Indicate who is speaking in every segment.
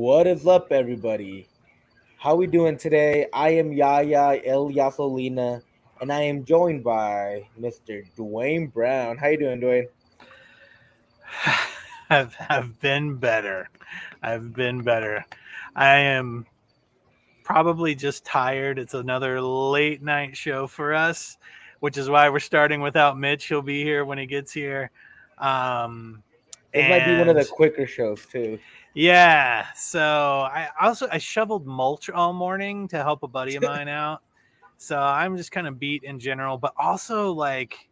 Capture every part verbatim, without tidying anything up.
Speaker 1: What is up, everybody? How we doing today? I am Yaya El Yasolina, and I am joined by Mister Dwayne Brown. How you doing, Dwayne?
Speaker 2: I've, I've been better. I've been better. I am probably just tired. It's another late night show for us, which is why we're starting without Mitch. He'll be here when he gets here. Um,
Speaker 1: This might be one of
Speaker 2: and
Speaker 1: the quicker shows too.
Speaker 2: yeah, so I also I shoveled mulch all morning to help a buddy of mine out. So I'm just kind of beat in general, but also like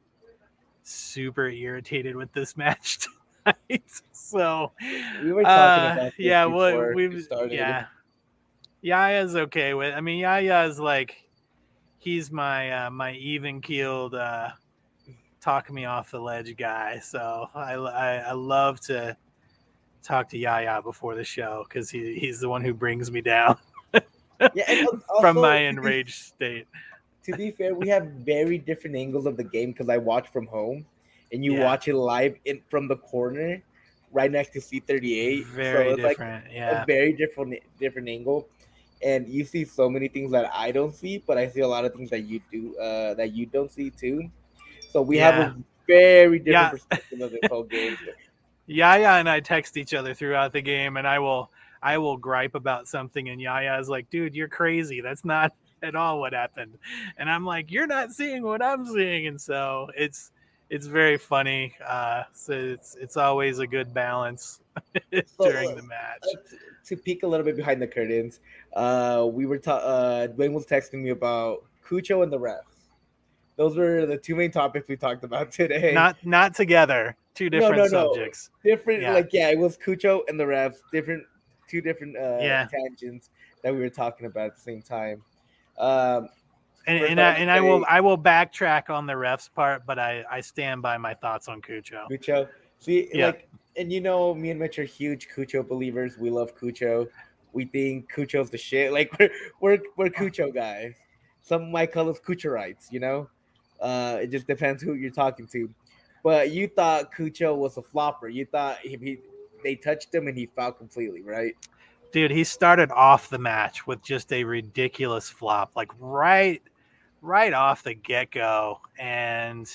Speaker 2: super irritated with this match tonight. So
Speaker 1: We were talking
Speaker 2: uh
Speaker 1: about this
Speaker 2: yeah, well
Speaker 1: before we
Speaker 2: we've
Speaker 1: started.
Speaker 2: yeah. Yaya's okay with I mean Yaya's like he's my uh my even keeled uh talk me off the ledge guy. So I I, I love to talk to Yaya before the show because he, he's the one who brings me down
Speaker 1: Yeah, and
Speaker 2: from
Speaker 1: also
Speaker 2: my
Speaker 1: to be,
Speaker 2: enraged state.
Speaker 1: to be fair, we have very different angles of the game because I watch from home, and you
Speaker 2: Yeah.
Speaker 1: watch it live in from the corner, right next to C thirty-eight.
Speaker 2: Very
Speaker 1: so it's
Speaker 2: different,
Speaker 1: like
Speaker 2: yeah.
Speaker 1: a very different different angle. And you see so many things that I don't see, but I see a lot of things that you do uh, that you don't see too. So we
Speaker 2: Yeah.
Speaker 1: have a very different
Speaker 2: Yeah.
Speaker 1: perspective of this whole game.
Speaker 2: Yaya and I text each other throughout the game, and I will I will gripe about something, and Yaya is like, "Dude, you're crazy. That's not at all what happened." And I'm like, "You're not seeing what I'm seeing," and so it's it's very funny. Uh, so it's it's always a good balance during
Speaker 1: So,
Speaker 2: the match.
Speaker 1: Uh, to, to peek a little bit behind the curtains, uh, we were ta- uh, Dwayne was texting me about Cucho and the refs. Those were the two main topics we talked about today.
Speaker 2: Not not together. Two different
Speaker 1: no, no,
Speaker 2: subjects.
Speaker 1: No. Different,
Speaker 2: yeah.
Speaker 1: like yeah, it was Cucho and the refs. Different, two different uh,
Speaker 2: yeah.
Speaker 1: tangents that we were talking about at the same time. Um,
Speaker 2: and and, I, and say, I will I will backtrack on the refs part, but I, I stand by my thoughts on Cucho.
Speaker 1: Cucho, see,
Speaker 2: yeah.
Speaker 1: like, and you know, me and Mitch are huge Cucho believers. We love Cucho. We think Cucho's the shit. Like we're we're we're Cucho guys. Some might call us Cuchorites, you know. Uh, it just depends who you're talking to. But you thought Cucho was a flopper. You thought if he they touched him and he fouled completely, right?
Speaker 2: Dude, he started off the match with just a ridiculous flop, like right, right off the get go, and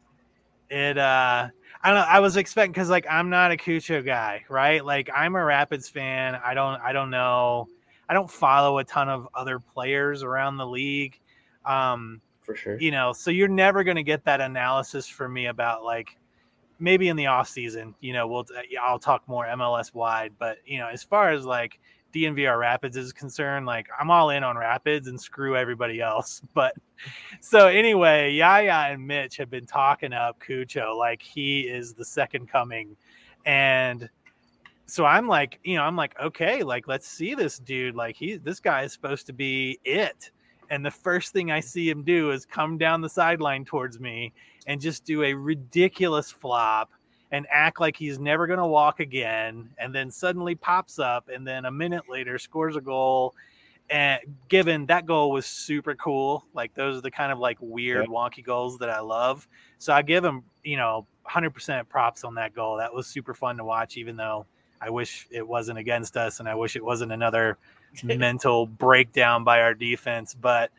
Speaker 2: it. uh I don't know. I was expecting because like I'm not a Cucho guy, right? Like I'm a Rapids fan. I don't. I don't know. I don't follow a ton of other players around the league. Um,
Speaker 1: For sure.
Speaker 2: You know, so you're never going to get that analysis from me about like maybe in the off season, you know, we'll, I'll talk more M L S wide, but you know, as far as like D N V R Rapids is concerned, like I'm all in on Rapids and screw everybody else. But so anyway, Yaya and Mitch have been talking up Cucho like he is the second coming. And so I'm like, you know, I'm like, okay, like, let's see this dude. Like he, this guy is supposed to be it. And the first thing I see him do is come down the sideline towards me and just do a ridiculous flop and act like he's never going to walk again. And then suddenly pops up and then a minute later scores a goal. And given that goal was super cool, like those are the kind of like weird, yeah. wonky goals that I love. So I give him, you know, one hundred percent props on that goal. That was super fun to watch, even though I wish it wasn't against us and I wish it wasn't another mental breakdown by our defense. But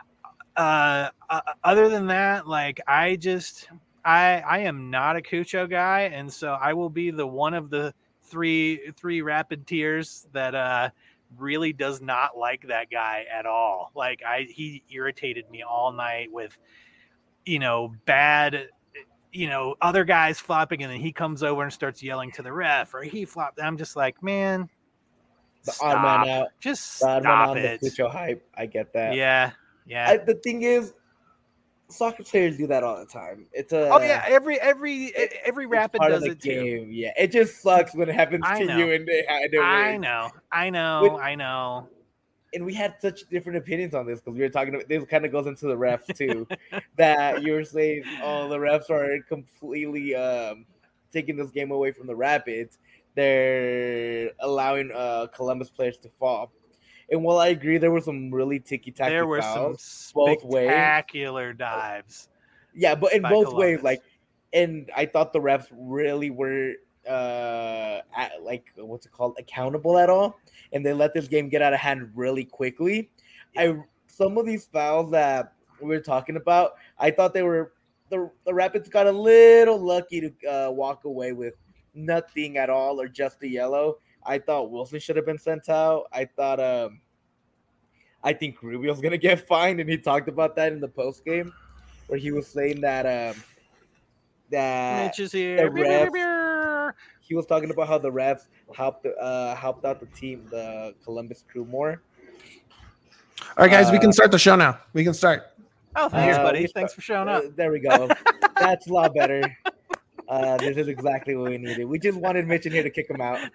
Speaker 2: uh, uh, other than that, like I just, I, I am not a Cucho guy. And so I will be the one of the three, three rapid tiers that uh, really does not like that guy at all. Like I, he irritated me all night with, you know, bad, you know, other guys flopping, and then he comes over and starts yelling to the ref, or he flopped. I'm just like, man,
Speaker 1: the
Speaker 2: stop.
Speaker 1: odd man out.
Speaker 2: Just
Speaker 1: the odd
Speaker 2: stop
Speaker 1: man
Speaker 2: it.
Speaker 1: The Cucho hype. I get that.
Speaker 2: Yeah, yeah.
Speaker 1: I, the thing is, soccer players do that all the time. It's a
Speaker 2: oh yeah, every every it, every rapid
Speaker 1: part
Speaker 2: does
Speaker 1: of the
Speaker 2: it
Speaker 1: game.
Speaker 2: too.
Speaker 1: Yeah, it just sucks when it happens
Speaker 2: I
Speaker 1: to
Speaker 2: know.
Speaker 1: you and they had to
Speaker 2: I
Speaker 1: win.
Speaker 2: know, I know,
Speaker 1: With,
Speaker 2: I know.
Speaker 1: And we had such different opinions on this because we were talking about this kind of goes into the refs too. That you were saying, oh, the refs are completely um, taking this game away from the Rapids. They're allowing uh, Columbus players to fall. And while I agree, there were some really ticky-tacky
Speaker 2: There were
Speaker 1: fouls,
Speaker 2: some
Speaker 1: both
Speaker 2: spectacular
Speaker 1: ways.
Speaker 2: dives.
Speaker 1: Yeah, but in both
Speaker 2: Columbus.
Speaker 1: ways, like, and I thought the refs really were uh at, like what's it called accountable at all, and they let this game get out of hand really quickly. I some of these fouls that we were talking about, I thought they were the the Rapids got a little lucky to uh, walk away with nothing at all or just a yellow. I thought Wilson should have been sent out. I thought um I think Rubio's gonna get fined, and he talked about that in the post game where he was saying that um that
Speaker 2: Mitch is here.
Speaker 1: the refs, he was talking about how the refs helped uh helped out the team, the Columbus Crew more.
Speaker 3: All right, guys, uh, we can
Speaker 1: Uh,
Speaker 3: start the show now. We can start.
Speaker 2: Oh, thanks,
Speaker 1: Uh,
Speaker 2: buddy.
Speaker 1: we
Speaker 2: Thanks
Speaker 1: start-
Speaker 2: for showing up.
Speaker 1: Uh, there we go. That's a lot better. Uh, this is exactly what we needed. We just wanted Mitch in here to kick him out.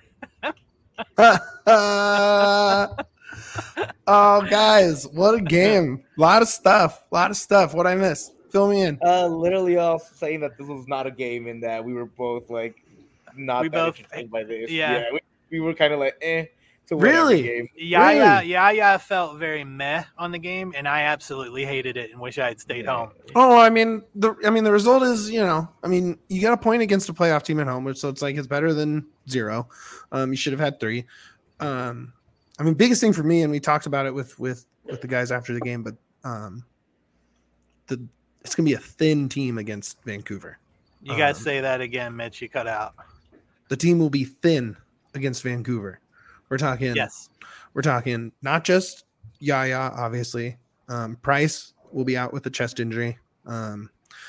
Speaker 3: Oh, guys, what a game. A lot of stuff. A lot of stuff. What I miss? Fill me in.
Speaker 1: Uh, literally all saying that this was not a game and that we were both like not
Speaker 2: We
Speaker 1: that
Speaker 2: both-
Speaker 1: entertained by this.
Speaker 2: yeah.
Speaker 1: we, we were kind of like eh to whatever
Speaker 3: Really?
Speaker 1: game.
Speaker 2: Yaya, Yaya felt very meh on the game, and I absolutely hated it and wish I had stayed
Speaker 1: Yeah.
Speaker 2: home.
Speaker 3: Oh, I mean, the I mean, the result is, you know, I mean, you got a point against a playoff team at home, which so it's like it's better than zero. Um, you should have had three. Um, I mean, biggest thing for me, and we talked about it with with with the guys after the game, but um, the it's gonna be a thin team against Vancouver.
Speaker 2: You guys
Speaker 3: Um,
Speaker 2: say that again, Mitch. You cut out.
Speaker 3: The team will be thin against Vancouver. We're talking.
Speaker 2: Yes.
Speaker 3: We're talking not just Yaya, obviously. Um, Price will be out with a chest injury. Um,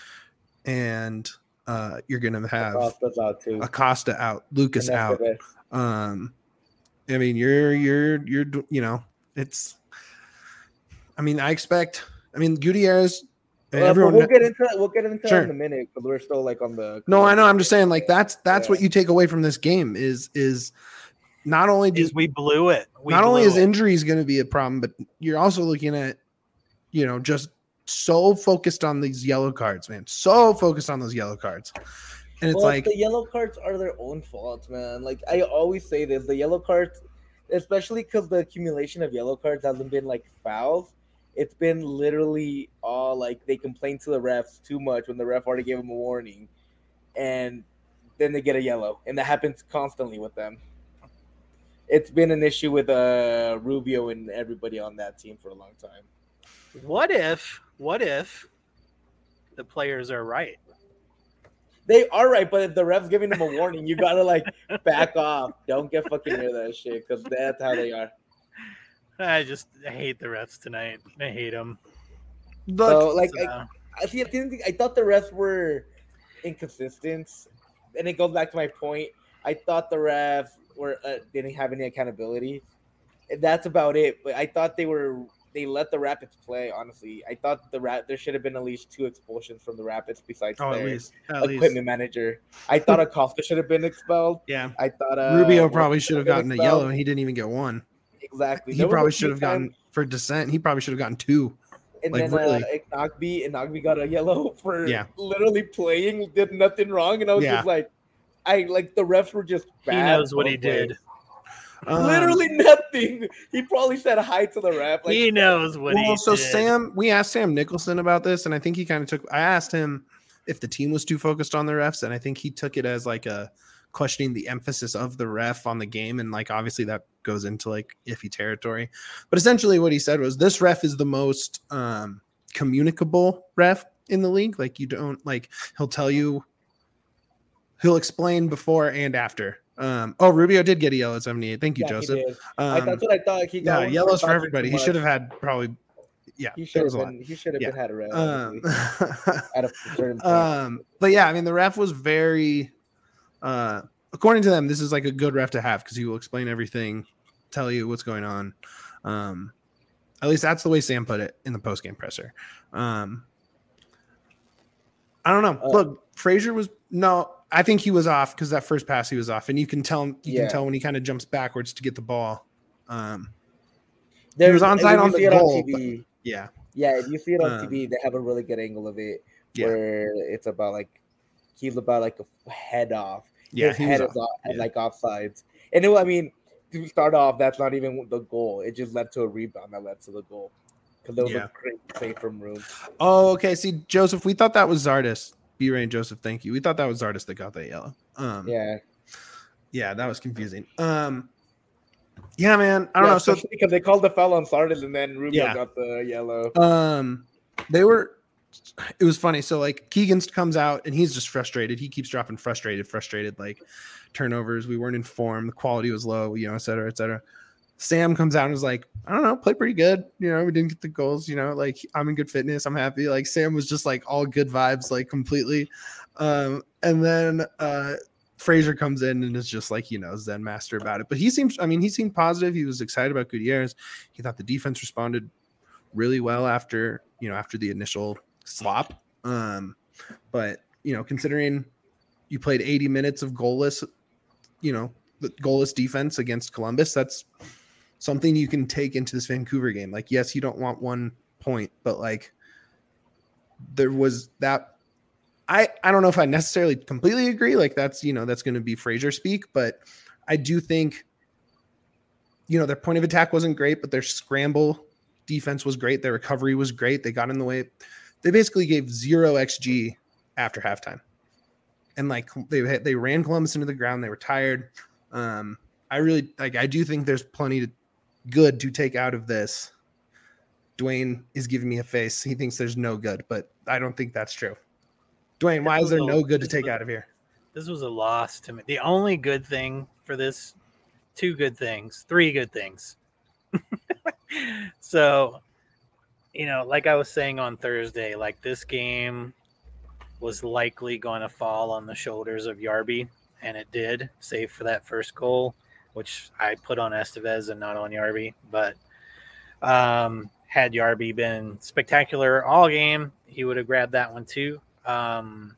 Speaker 3: and uh, you're going to have
Speaker 1: Acosta's out too.
Speaker 3: Acosta out, Lucas
Speaker 1: And that's
Speaker 3: out.
Speaker 1: it.
Speaker 3: Um, I mean, you're, you're, you're, you know, it's, I mean, I expect, I mean, Gutierrez,
Speaker 1: Well, but
Speaker 3: everyone,
Speaker 1: we'll get into that. We'll get into
Speaker 3: Sure.
Speaker 1: that in a minute because we're still like on the.
Speaker 3: no, I know. I'm just saying, like, that's, that's
Speaker 1: Yeah.
Speaker 3: what you take away from this game is, is not only do
Speaker 2: Is we blew it. We
Speaker 3: not only
Speaker 2: blew
Speaker 3: is
Speaker 2: it.
Speaker 3: injuries going to be a problem, but you're also looking at, you know, just so focused on these yellow cards, man. So focused on those yellow cards. And it's
Speaker 1: well,
Speaker 3: like,
Speaker 1: the yellow cards are their own faults, man. Like I always say this, the yellow cards, especially because the accumulation of yellow cards hasn't been like fouls. It's been literally all like they complain to the refs too much when the ref already gave them a warning, and then they get a yellow, and that happens constantly with them. It's been an issue with uh, Rubio and everybody on that team for a long time.
Speaker 2: What if? What if the players are right?
Speaker 1: They are right, but if the ref's giving them a warning, you gotta like back off. Don't get fucking near that shit because that's how they are.
Speaker 2: I just I hate the refs tonight. I hate them.
Speaker 3: look,
Speaker 1: So like,
Speaker 2: So,
Speaker 1: I, I see. I didn't think, I thought the refs were inconsistent, and it goes back to my point. I thought the refs were uh, didn't have any accountability. And that's about it. But I thought they were. They let the Rapids play. Honestly, I thought the Rap there should have been at least two expulsions from the Rapids besides
Speaker 3: oh, at
Speaker 1: their
Speaker 3: least, at
Speaker 1: equipment
Speaker 3: least.
Speaker 1: manager. I thought Acosta should have been expelled.
Speaker 3: Yeah.
Speaker 1: I thought uh,
Speaker 3: Rubio
Speaker 1: Wilson
Speaker 3: probably should have
Speaker 1: been
Speaker 3: gotten a
Speaker 1: expelled.
Speaker 3: yellow and he didn't even get one.
Speaker 1: Exactly.
Speaker 3: He
Speaker 1: There was
Speaker 3: probably
Speaker 1: a
Speaker 3: should
Speaker 1: few
Speaker 3: have gotten
Speaker 1: times-
Speaker 3: for dissent. He probably should have gotten two.
Speaker 1: And
Speaker 3: like,
Speaker 1: then
Speaker 3: really.
Speaker 1: uh, Ignagby, Ignagby got a yellow for
Speaker 3: Yeah.
Speaker 1: literally playing, did nothing wrong, and I was
Speaker 3: Yeah.
Speaker 1: just like, I like the refs were just
Speaker 2: he
Speaker 1: bad
Speaker 2: knows what he
Speaker 1: both ways.
Speaker 2: did.
Speaker 3: Um,
Speaker 1: Literally nothing. He probably said hi to the ref. Like,
Speaker 2: he knows what
Speaker 3: well,
Speaker 2: he
Speaker 3: so
Speaker 2: did.
Speaker 3: Sam, we asked Sam Nicholson about this, and I think he kind of took. I asked him if the team was too focused on the refs, and I think he took it as like a questioning the emphasis of the ref on the game, and like obviously that goes into like iffy territory. But essentially, what he said was this ref is the most um, communicable ref in the league. Like you don't like he'll tell you, he'll explain before and after. Um, oh, Rubio did get a yellow at seventy-eight. Thank you,
Speaker 1: yeah, he
Speaker 3: Joseph.
Speaker 1: did. I,
Speaker 3: Um,
Speaker 1: that's what I thought. He got
Speaker 3: yeah,
Speaker 1: one
Speaker 3: yellows for
Speaker 1: talking
Speaker 3: everybody.
Speaker 1: too
Speaker 3: He should have
Speaker 1: much.
Speaker 3: had probably. Yeah,
Speaker 1: He
Speaker 3: that
Speaker 1: should
Speaker 3: was
Speaker 1: have
Speaker 3: a lot.
Speaker 1: been. He should have
Speaker 3: Yeah.
Speaker 1: been had a red.
Speaker 3: Um,
Speaker 1: honestly, at a certain point.
Speaker 3: um, but yeah, I mean, the ref was very, uh, according to them, this is like a good ref to have because he will explain everything, tell you what's going on. Um, at least that's the way Sam put it in the post game presser. Um, I don't know.
Speaker 1: Uh,
Speaker 3: Look, Frazier was no. I think he was off because that first pass he was off, and you can tell you
Speaker 1: Yeah.
Speaker 3: can tell when he kind of jumps backwards to get the ball. Um,
Speaker 1: There's,
Speaker 3: was onside
Speaker 1: when
Speaker 3: on
Speaker 1: you
Speaker 3: the
Speaker 1: see it
Speaker 3: goal,
Speaker 1: on T V.
Speaker 3: yeah,
Speaker 1: Yeah, if you see it on
Speaker 3: Um,
Speaker 1: T V, they have a really good angle of it
Speaker 3: yeah,
Speaker 1: where it's about like he's about like a head off.
Speaker 3: yeah.
Speaker 1: His
Speaker 3: he
Speaker 1: head
Speaker 3: was
Speaker 1: is
Speaker 3: off.
Speaker 1: off,
Speaker 3: Yeah.
Speaker 1: like offsides. And it, I mean, to start off, that's not even the goal. It just led to a rebound that led to the goal because there was
Speaker 3: Yeah.
Speaker 1: a great save from Room.
Speaker 3: Oh, okay. See, Joseph, we thought that was Zardis. B-Ray and Joseph, thank you. We thought that was Zardis that got that yellow. Um,
Speaker 1: Yeah,
Speaker 3: Yeah, that was confusing. Um, yeah, man. I don't
Speaker 1: yeah,
Speaker 3: know. So
Speaker 1: because they called the foul on Sardis and then Rubio
Speaker 3: Yeah.
Speaker 1: got the yellow.
Speaker 3: Um, they were. It was funny. So like Keegan comes out and he's just frustrated. He keeps dropping frustrated, frustrated, like turnovers. We weren't informed. The quality was low, you know, et cetera, et cetera. Sam comes out and is like, I don't know, played pretty good. You know, we didn't get the goals. You know, like I'm in good fitness. I'm happy. Like Sam was just like all good vibes, like completely. Um, and then uh, Frazier comes in and is just like, you know, Zen master about it. But he seems, I mean, he seemed positive. He was excited about Gutierrez. He thought the defense responded really well after, you know, after the initial slop. Um, but, you know, considering you played eighty minutes of goalless, you know, the goalless defense against Columbus, that's something you can take into this Vancouver game. Like, yes, you don't want one point, but like there was that. I, I don't know if I necessarily completely agree. Like that's, you know, that's going to be Frazier speak, but I do think, you know, their point of attack wasn't great, but their scramble defense was great. Their recovery was great. They got in the way. They basically gave zero X G after halftime. And like they they ran Columbus into the ground. They were tired. Um, I really like, I do think there's plenty to, good to take out of this. Dwayne is giving me a face. He thinks there's no good, but I don't think that's true. Dwayne, why is there no good to take out of here?
Speaker 2: This was a loss to me. The only good thing for this, two good things, three good things. So, you know, like I was saying on Thursday, like this game was likely going to fall on the shoulders of Yarby, and it did, save for that first goal, which I put on Estevez and not on Yarby. But um, had Yarby been spectacular all game, he would have grabbed that one too. Um,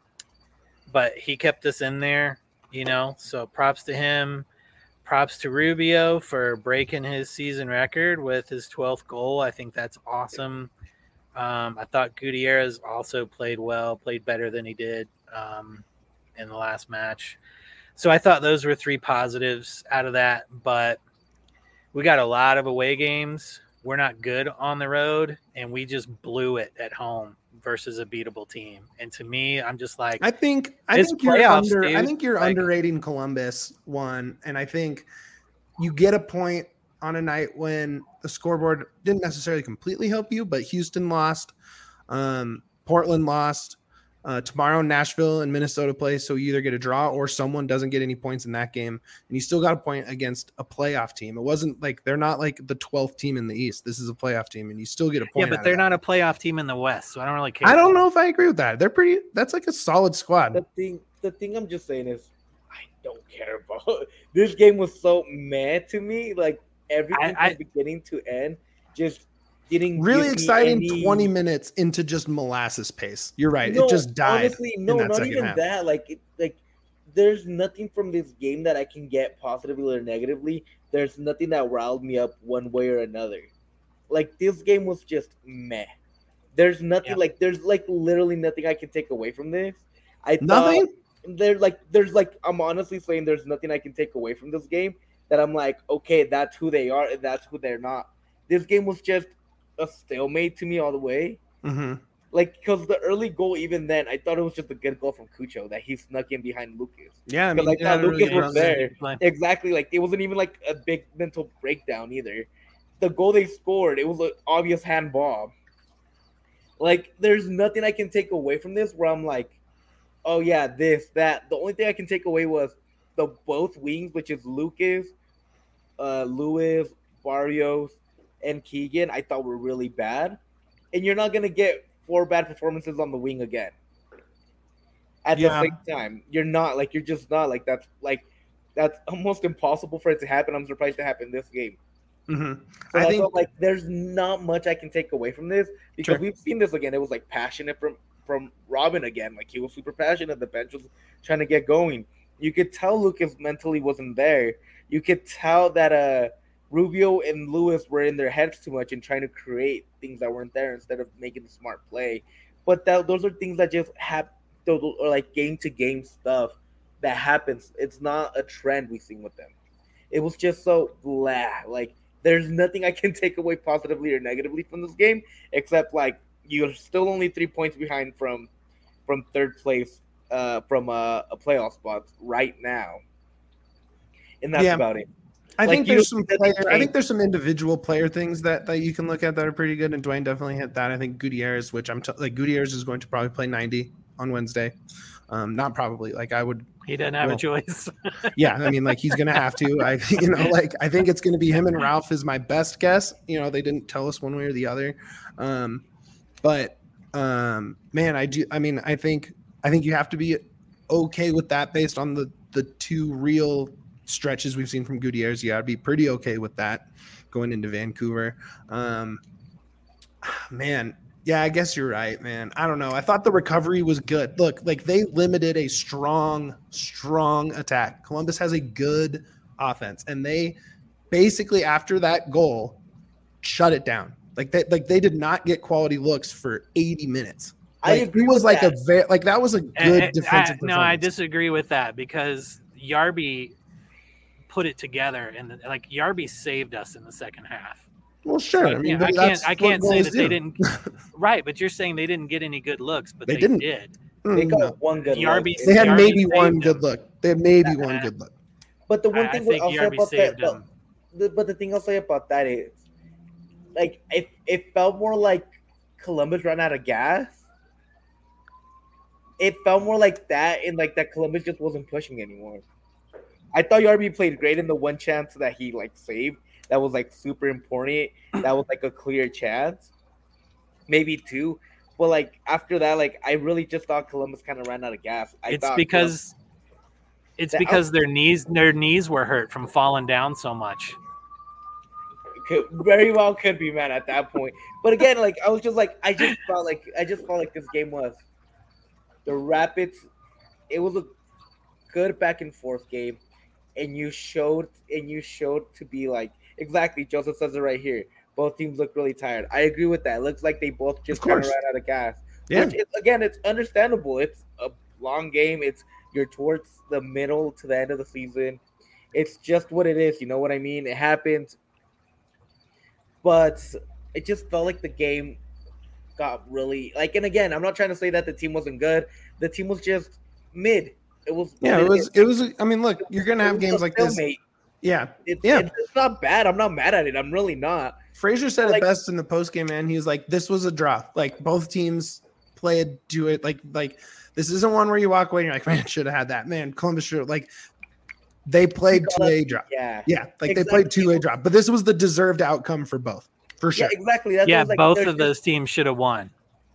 Speaker 2: but he kept us in there, you know, so props to him. Props to Rubio for breaking his season record with his twelfth goal. I think that's awesome. Um, I thought Gutierrez also played well, played better than he did um, in the last match. So I thought those were three positives out of that. But we got a lot of away games. We're not good on the road, and we just blew it at home versus a beatable team. And to me, I'm just like,
Speaker 3: I think I
Speaker 2: it's
Speaker 3: think you're
Speaker 2: playoffs,
Speaker 3: under
Speaker 2: dude.
Speaker 3: I think you're
Speaker 2: Like-
Speaker 3: underrating Columbus one, and I think you get a point on a night when the scoreboard didn't necessarily completely help you, but Houston lost, um, Portland lost. Uh, tomorrow, Nashville and Minnesota play, so you either get a draw or someone doesn't get any points in that game, and you still got a point against a playoff team. It wasn't like they're not like the twelfth team in the East. This is a playoff team, and you still get a point.
Speaker 2: Yeah,
Speaker 3: out
Speaker 2: but
Speaker 3: of
Speaker 2: they're
Speaker 3: that.
Speaker 2: not a playoff team in the West, so I don't really care.
Speaker 3: I don't know if I agree with that. They're pretty. That's like a solid squad.
Speaker 1: The thing, the thing I'm just saying is, I don't care about this game. Was so meh to me. Like everything
Speaker 2: I- I-
Speaker 1: from beginning to end, just didn't
Speaker 3: Really
Speaker 1: give me
Speaker 3: exciting
Speaker 1: any-
Speaker 3: twenty minutes into just molasses pace. You're right.
Speaker 1: No,
Speaker 3: it just died.
Speaker 1: Honestly, no,
Speaker 3: in that
Speaker 1: not
Speaker 3: second
Speaker 1: even
Speaker 3: half.
Speaker 1: that. Like, it, like there's nothing from this game that I can get positively or negatively. There's nothing that riled me up one way or another. Like this game was just meh. There's nothing
Speaker 2: Yeah.
Speaker 1: like there's like literally nothing I can take away from this. I
Speaker 3: Nothing?
Speaker 1: thought there like there's like I'm honestly saying there's nothing I can take away from this game that I'm like, okay, that's who they are and that's who they're not. This game was just a stalemate to me all the way.
Speaker 3: Mm-hmm.
Speaker 1: Like, because the early goal, even then, I thought it was just a good goal from Cucho that he snuck in behind Lucas.
Speaker 3: Yeah, I
Speaker 1: Because
Speaker 3: mean,
Speaker 1: I thought
Speaker 3: yeah,
Speaker 1: Lucas
Speaker 3: really
Speaker 1: was
Speaker 3: good.
Speaker 1: there.
Speaker 2: Like,
Speaker 1: Exactly. Like, it wasn't even like a big mental breakdown either. The goal they scored, it was an obvious handball. Like, there's nothing I can take away from this where I'm like, oh, yeah, this, that. The only thing I can take away was the both wings, which is Lucas, uh, Lewis, Barrios, and Keegan, I thought were really bad. And you're not going to get four bad performances on the wing again. At
Speaker 3: Yeah.
Speaker 1: the same time, you're not. Like, you're just not. Like, that's, like, that's almost impossible for it to happen. I'm surprised it happened this game.
Speaker 3: Mm-hmm.
Speaker 1: So
Speaker 3: I
Speaker 1: I
Speaker 3: think
Speaker 1: felt like there's not much I can take away from this because
Speaker 3: Sure.
Speaker 1: we've seen this again. It was like passionate from from Robin again. Like he was super passionate. The bench was trying to get going. You could tell Lucas mentally wasn't there. You could tell that uh Rubio and Lewis were in their heads too much and trying to create things that weren't there instead of making the smart play. But that those are things that just happen, or like game to game stuff that happens. It's not a trend we've seen with them. It was just so blah. Like there's nothing I can take away positively or negatively from this game except like you're still only three points behind from from third place uh, from a, a playoff spot right now. and that's
Speaker 3: Yeah.
Speaker 1: about it.
Speaker 3: I
Speaker 1: Like,
Speaker 3: think
Speaker 1: you
Speaker 3: there's
Speaker 1: don't
Speaker 3: some
Speaker 1: see nothing
Speaker 3: player. I
Speaker 1: change.
Speaker 3: think there's some individual player things that, that you can look at that are pretty good, and Dwayne definitely hit that. I think Gutierrez, which I'm t- like Gutierrez is going to probably play ninety on Wednesday. Um, not probably. Like I would.
Speaker 2: He doesn't have
Speaker 3: well,
Speaker 2: a choice.
Speaker 3: Yeah, I mean, like he's gonna have to. I, you know, like I think it's gonna be him and Ralph is my best guess. You know, they didn't tell us one way or the other, um, but um, man, I do. I mean, I think I think you have to be okay with that based on the the two real stretches we've seen from Gutierrez. You got to be pretty okay with that going into Vancouver. Um, man, yeah, I guess you're right, man. I don't know. I thought the recovery was good. Look, like they limited a strong, strong attack. Columbus has a good offense, and they basically after that goal shut it down. Like they like they did not get quality looks for eighty minutes. Like,
Speaker 1: I agree
Speaker 3: it was
Speaker 1: with
Speaker 3: like
Speaker 1: that.
Speaker 3: a very like that was a good
Speaker 2: And- and
Speaker 3: defensive
Speaker 2: I, no, I
Speaker 3: performance.
Speaker 2: disagree with that because Yarby put it together, and like Yarby saved us in the second half.
Speaker 3: Well, sure.
Speaker 2: Like,
Speaker 3: I mean,
Speaker 2: yeah,
Speaker 3: but
Speaker 2: I can't.
Speaker 3: that's
Speaker 2: I
Speaker 3: what
Speaker 2: can't say
Speaker 3: goalies
Speaker 2: that they
Speaker 3: do.
Speaker 2: didn't. Right, but you're saying they didn't get any good looks, but
Speaker 3: They
Speaker 2: they,
Speaker 3: didn't.
Speaker 2: did.
Speaker 1: They
Speaker 3: Mm,
Speaker 1: got
Speaker 3: no.
Speaker 1: one good
Speaker 2: Yarby
Speaker 1: look.
Speaker 3: They had
Speaker 2: Yarby
Speaker 3: maybe
Speaker 2: saved
Speaker 3: one
Speaker 2: them.
Speaker 3: good look. They had maybe
Speaker 2: Uh,
Speaker 3: one good look.
Speaker 1: But the one
Speaker 2: I, I
Speaker 1: thing
Speaker 2: think
Speaker 1: I'll say
Speaker 2: Yarby
Speaker 1: about that,
Speaker 2: saved
Speaker 1: but
Speaker 2: them.
Speaker 1: the, but the thing I'll say about that is, like, it it felt more like Columbus ran out of gas. It felt more like that, and like that Columbus just wasn't pushing anymore. I thought Yarby played great in the one chance that he like saved. That was like super important. That was like a clear chance, maybe two. But like after that, like I really just thought Columbus kind of ran out of gas. I
Speaker 2: It's
Speaker 1: thought
Speaker 2: because it's
Speaker 1: The
Speaker 2: because their knees their knees were hurt from falling down so much.
Speaker 1: Could, very well could be, man, at that point. But again, like I was just like I just felt like I just felt like this game was the Rapids. It was a good back and forth game, and you showed and you showed to be like exactly. Joseph says it right here. Both teams look really tired. I agree with that. It looks like they both just
Speaker 3: Of
Speaker 1: kind of
Speaker 3: course.
Speaker 1: ran out of gas.
Speaker 3: Yeah.
Speaker 1: Which is, again, it's understandable. It's a long game. It's you're towards the middle to the end of the season. It's just what it is. You know what I mean? It happens. But it just felt like the game got really like. And again, I'm not trying to say that the team wasn't good. The team was just mid. It was
Speaker 3: Yeah,
Speaker 1: what
Speaker 3: it was.
Speaker 1: is.
Speaker 3: It was. I mean, look, you're gonna
Speaker 1: It
Speaker 3: have
Speaker 1: was a
Speaker 3: games like this.
Speaker 1: stalemate.
Speaker 3: Yeah,
Speaker 1: It's,
Speaker 3: Yeah.
Speaker 1: it's, it's not bad. I'm not mad at it. I'm really not.
Speaker 3: Frazier said
Speaker 1: Like-
Speaker 3: it best in the post game, man. He was like, "This was a draw. Like both teams played, do it. Like, like this isn't one where you walk away and you're like, man, should have had that. Man, Columbus should like they played two a drop.
Speaker 1: Yeah.
Speaker 3: Yeah, like they played two a drop, but this was the deserved outcome for both, for sure.
Speaker 1: Yeah, exactly. That's what I
Speaker 2: Yeah,
Speaker 1: was like,
Speaker 2: both
Speaker 1: they're
Speaker 2: of those teams should have won.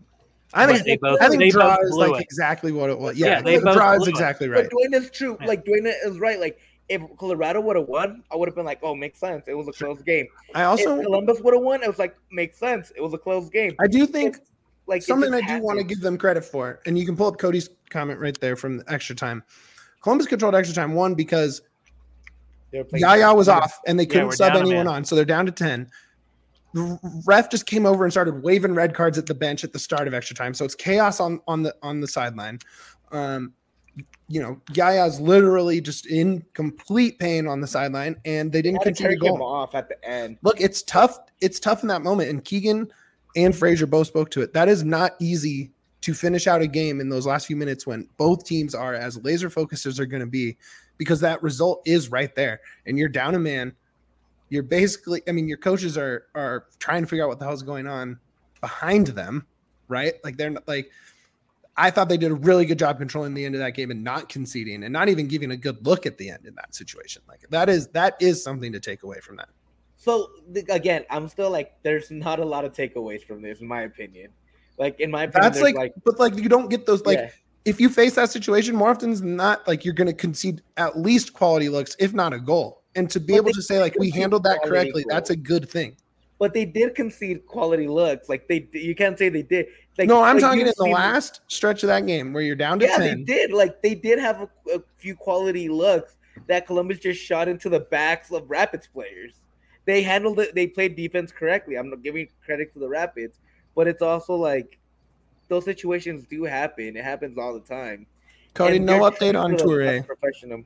Speaker 3: I think
Speaker 2: But they both-
Speaker 3: I think
Speaker 2: they
Speaker 3: draw
Speaker 2: both
Speaker 3: is
Speaker 2: blew
Speaker 3: like
Speaker 2: it.
Speaker 3: exactly what it was. Yeah,
Speaker 2: Yeah, they
Speaker 3: the
Speaker 2: both
Speaker 3: draw is
Speaker 2: blew it.
Speaker 3: exactly
Speaker 1: But
Speaker 3: right.
Speaker 1: Dwayne is true.
Speaker 2: Yeah.
Speaker 1: Like Dwayne is right. Like if Colorado would have won, I would have been like, "Oh, makes sense. It was a close game."
Speaker 3: I also
Speaker 1: if Columbus would have won, it was like, "Makes sense. It was a close game."
Speaker 3: I do think
Speaker 1: Like it
Speaker 3: something I
Speaker 1: just
Speaker 3: do want to
Speaker 1: happened.
Speaker 3: give them credit for, and you can pull up Cody's comment right there from the extra time. Columbus controlled extra time one because
Speaker 1: They were playing-
Speaker 3: Yaya was off and they
Speaker 2: Yeah,
Speaker 3: couldn't
Speaker 2: we're
Speaker 3: sub
Speaker 2: down a
Speaker 3: anyone
Speaker 2: man.
Speaker 3: on, so they're down to ten. The ref just came over and started waving red cards at the bench at the start of extra time, so it's chaos on on the on the sideline. Um, you know, Yaya's literally just in complete pain on the sideline, and they didn't
Speaker 1: Had to
Speaker 3: concede a
Speaker 1: carry him
Speaker 3: goal.
Speaker 1: off at the end.
Speaker 3: Look, it's tough. It's tough in that moment, and Keegan and Frazier both spoke to it. That is not easy to finish out a game in those last few minutes when both teams are as laser focused as they're going to be, because that result is right there, and you're down a man. You're basically, I mean, your coaches are are trying to figure out what the hell's going on behind them, right? Like they're not like. I thought they did a really good job controlling the end of that game and not conceding and not even giving a good look at the end in that situation. Like that is that is something to take away from that.
Speaker 1: So th- again, I'm still like, there's not a lot of takeaways from this, in my opinion. Like in my opinion,
Speaker 3: That's
Speaker 1: there's
Speaker 3: like, but like you don't get those like
Speaker 1: yeah.
Speaker 3: if you face that situation more often than not, like you're going to concede at least quality looks, if not a goal. And to be
Speaker 1: But
Speaker 3: able
Speaker 1: they
Speaker 3: to say like we
Speaker 1: concede
Speaker 3: handled that
Speaker 1: quality
Speaker 3: correctly,
Speaker 1: goals.
Speaker 3: that's a good thing.
Speaker 1: But they did concede quality looks. Like they, you can't say they did. Like,
Speaker 3: No, I'm
Speaker 1: like,
Speaker 3: talking
Speaker 1: you've
Speaker 3: in the
Speaker 1: seen-
Speaker 3: last stretch of that game where you're down to
Speaker 1: Yeah,
Speaker 3: ten.
Speaker 1: they did. Like they did have a, a few quality looks that Columbus just shot into the backs of Rapids players. They handled it. They played defense correctly. I'm not giving credit to the Rapids, but it's also like those situations do happen. It happens all the time.
Speaker 3: Cody,
Speaker 1: And
Speaker 3: no
Speaker 1: they're
Speaker 3: update on
Speaker 1: the
Speaker 3: Toure.
Speaker 1: best professional.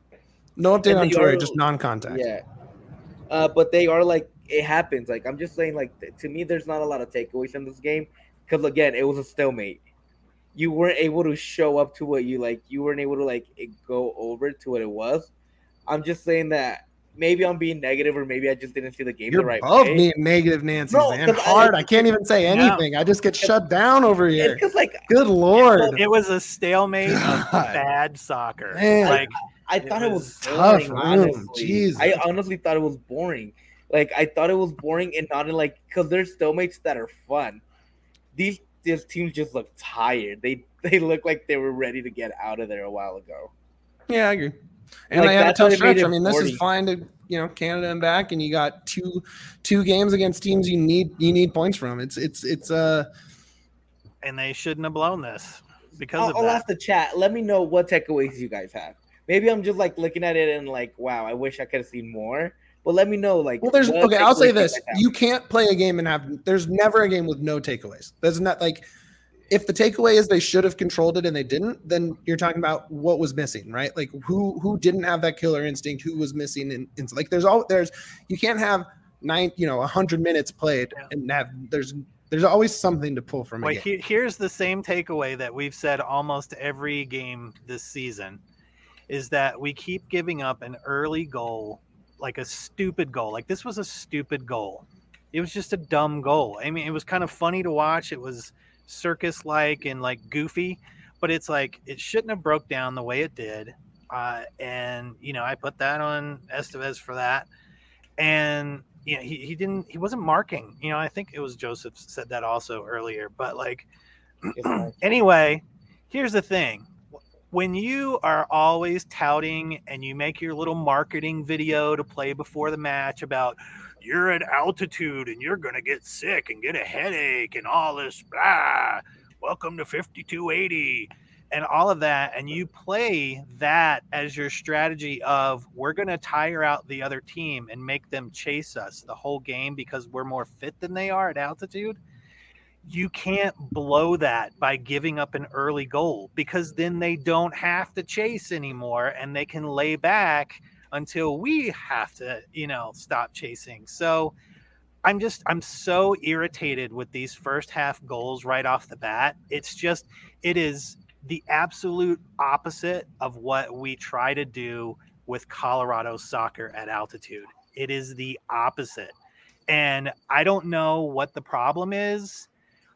Speaker 3: No update
Speaker 1: and
Speaker 3: on
Speaker 1: they
Speaker 3: Toure,
Speaker 1: are-
Speaker 3: just non-contact.
Speaker 1: Yeah. Uh, but they are like, it happens. Like, I'm just saying, like, th- to me, there's not a lot of takeaways from this game. Because, again, it was a stalemate. You weren't able to show up to what you, like, you weren't able to, like, it go over to what it was. I'm just saying that maybe I'm being negative, or maybe I just didn't see the game
Speaker 3: You're
Speaker 1: the right
Speaker 3: both
Speaker 1: way.
Speaker 3: being negative, Nancy,
Speaker 1: No,
Speaker 3: man.
Speaker 1: 'cause I-
Speaker 3: Hard. I, can't even say anything. I just get shut down over here.
Speaker 1: Because like
Speaker 3: Good lord.
Speaker 2: It was a stalemate of
Speaker 3: God.
Speaker 2: bad soccer.
Speaker 3: Man.
Speaker 2: Like
Speaker 1: I
Speaker 2: It
Speaker 1: thought it
Speaker 2: was
Speaker 1: was
Speaker 3: tough
Speaker 1: boring,
Speaker 3: room.
Speaker 1: honestly.
Speaker 3: Jesus.
Speaker 1: I honestly thought it was boring. Like I thought it was boring and not in like because there's stalemates that are fun. These these teams just look tired. They they look like they were ready to get out of there a while ago.
Speaker 3: Yeah, I agree. And
Speaker 1: Like,
Speaker 3: they had a
Speaker 1: that's what
Speaker 3: tough
Speaker 1: it made
Speaker 3: stretch.
Speaker 1: it
Speaker 3: I mean, this
Speaker 1: forty.
Speaker 3: is fine to you know Canada and back, and you got two two games against teams you need you need points from. It's it's it's uh
Speaker 2: and they shouldn't have blown this because
Speaker 1: I'll,
Speaker 2: of
Speaker 1: I'll
Speaker 2: that.
Speaker 1: ask the chat. Let me know what takeaways you guys have. Maybe I'm just like looking at it and like, wow, I wish I could have seen more. But let me know, like,
Speaker 3: well. There's
Speaker 1: what
Speaker 3: okay. I'll
Speaker 1: takeaways
Speaker 3: say
Speaker 1: you
Speaker 3: this:
Speaker 1: guys have.
Speaker 3: you can't play a game and have. There's never a game with no takeaways. There's not like if the takeaway is they should have controlled it and they didn't, then you're talking about what was missing, right? Like who who didn't have that killer instinct, who was missing, and, and like there's all there's you can't have nine you know a hundred minutes played
Speaker 2: Yeah.
Speaker 3: and have there's there's always something to pull from a
Speaker 2: Wait,
Speaker 3: game.
Speaker 2: he, here's the same takeaway that we've said almost every game this season is that we keep giving up an early goal, like a stupid goal. Like this was a stupid goal. It was just a dumb goal. I mean, it was kind of funny to watch. It was circus-like and like goofy, but it's like it shouldn't have broke down the way it did. Uh, and you know, I put that on Estevez for that. And you know, he, he didn't he wasn't marking. You know, I think it was Joseph said that also earlier. But like anyway, here's the thing. When you are always touting and you make your little marketing video to play before the match about you're at altitude and you're going to get sick and get a headache and all this, blah, welcome to fifty-two eighty and all of that, and you play that as your strategy of we're going to tire out the other team and make them chase us the whole game because we're more fit than they are at altitude, you can't blow that by giving up an early goal because then they don't have to chase anymore and they can lay back until we have to, you know, stop chasing. So I'm just, I'm so irritated with these first half goals right off the bat. It's just, it is the absolute opposite of what we try to do with Colorado soccer at altitude. It is the opposite. And I don't know what the problem is,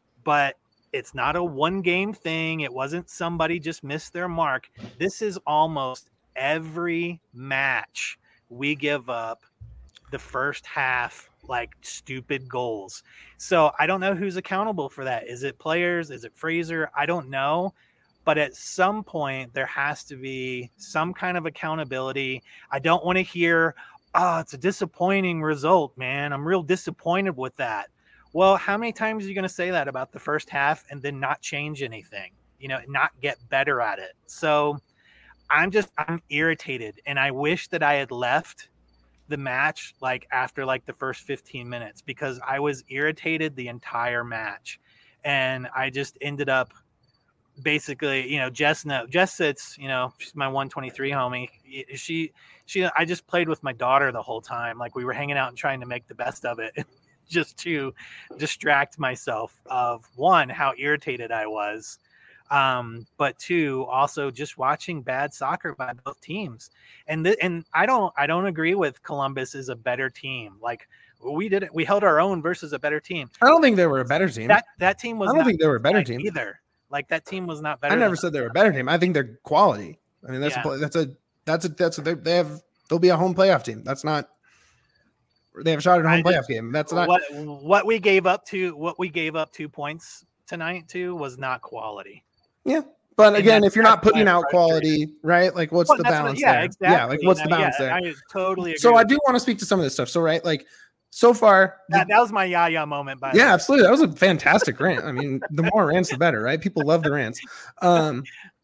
Speaker 2: but it's not a one game thing. It wasn't somebody just missed their mark. This is almost every match we give up the first half, like stupid goals. So I don't know who's accountable for that. Is it players? Is it Fraser? I don't know. But at some point there has to be some kind of accountability. I don't want to hear, oh, it's a disappointing result, man. I'm real disappointed with that. Well, how many times are you going to say that about the first half and then not change anything, you know, not get better at it? So I'm just, I'm irritated. And I wish that I had left the match like after like the first fifteen minutes because I was irritated the entire match. And I just ended up basically, you know, Jess, no, Jess sits, you know, she's my one twenty-three homie. She, she, I just played with my daughter the whole time. Like we were hanging out and trying to make the best of it. Just to distract myself of one, how irritated I was, um, but two, also just watching bad soccer by both teams. And th- and I don't I don't agree with Columbus is a better team. Like we did it, we held our own versus a better team.
Speaker 3: I don't think they were a better team.
Speaker 2: That that team was.
Speaker 3: I don't
Speaker 2: not
Speaker 3: think they were a better
Speaker 2: like
Speaker 3: team
Speaker 2: either. Like that team was not better.
Speaker 3: I never
Speaker 2: than
Speaker 3: said they
Speaker 2: us.
Speaker 3: were a better team. I think they're quality. I mean, that's
Speaker 2: Yeah.
Speaker 3: a that's a that's a that's a, they, they have they'll be a home playoff team. That's not. They have a shot at a home
Speaker 2: I
Speaker 3: playoff
Speaker 2: just-
Speaker 3: game. That's not.
Speaker 2: what what we gave up to what we gave up two points tonight to was not quality.
Speaker 3: Yeah, but
Speaker 2: And
Speaker 3: again,
Speaker 2: that's-
Speaker 3: if you're not
Speaker 2: that's why
Speaker 3: putting
Speaker 2: I'm
Speaker 3: out quality, right? Like, what's
Speaker 2: Well,
Speaker 3: the
Speaker 2: that's what-
Speaker 3: balance
Speaker 2: yeah,
Speaker 3: there?
Speaker 2: exactly.
Speaker 3: Yeah, like what's the
Speaker 2: No,
Speaker 3: balance
Speaker 2: yeah,
Speaker 3: there?
Speaker 2: I totally agree.
Speaker 3: So I
Speaker 2: with
Speaker 3: do want to speak to some of this stuff. So right, like so far, the-
Speaker 2: That, that was my Yaya moment. By the
Speaker 3: yeah,
Speaker 2: way.
Speaker 3: absolutely. That was a fantastic rant. I mean, the more rants, the better, right? People love the rants. Um,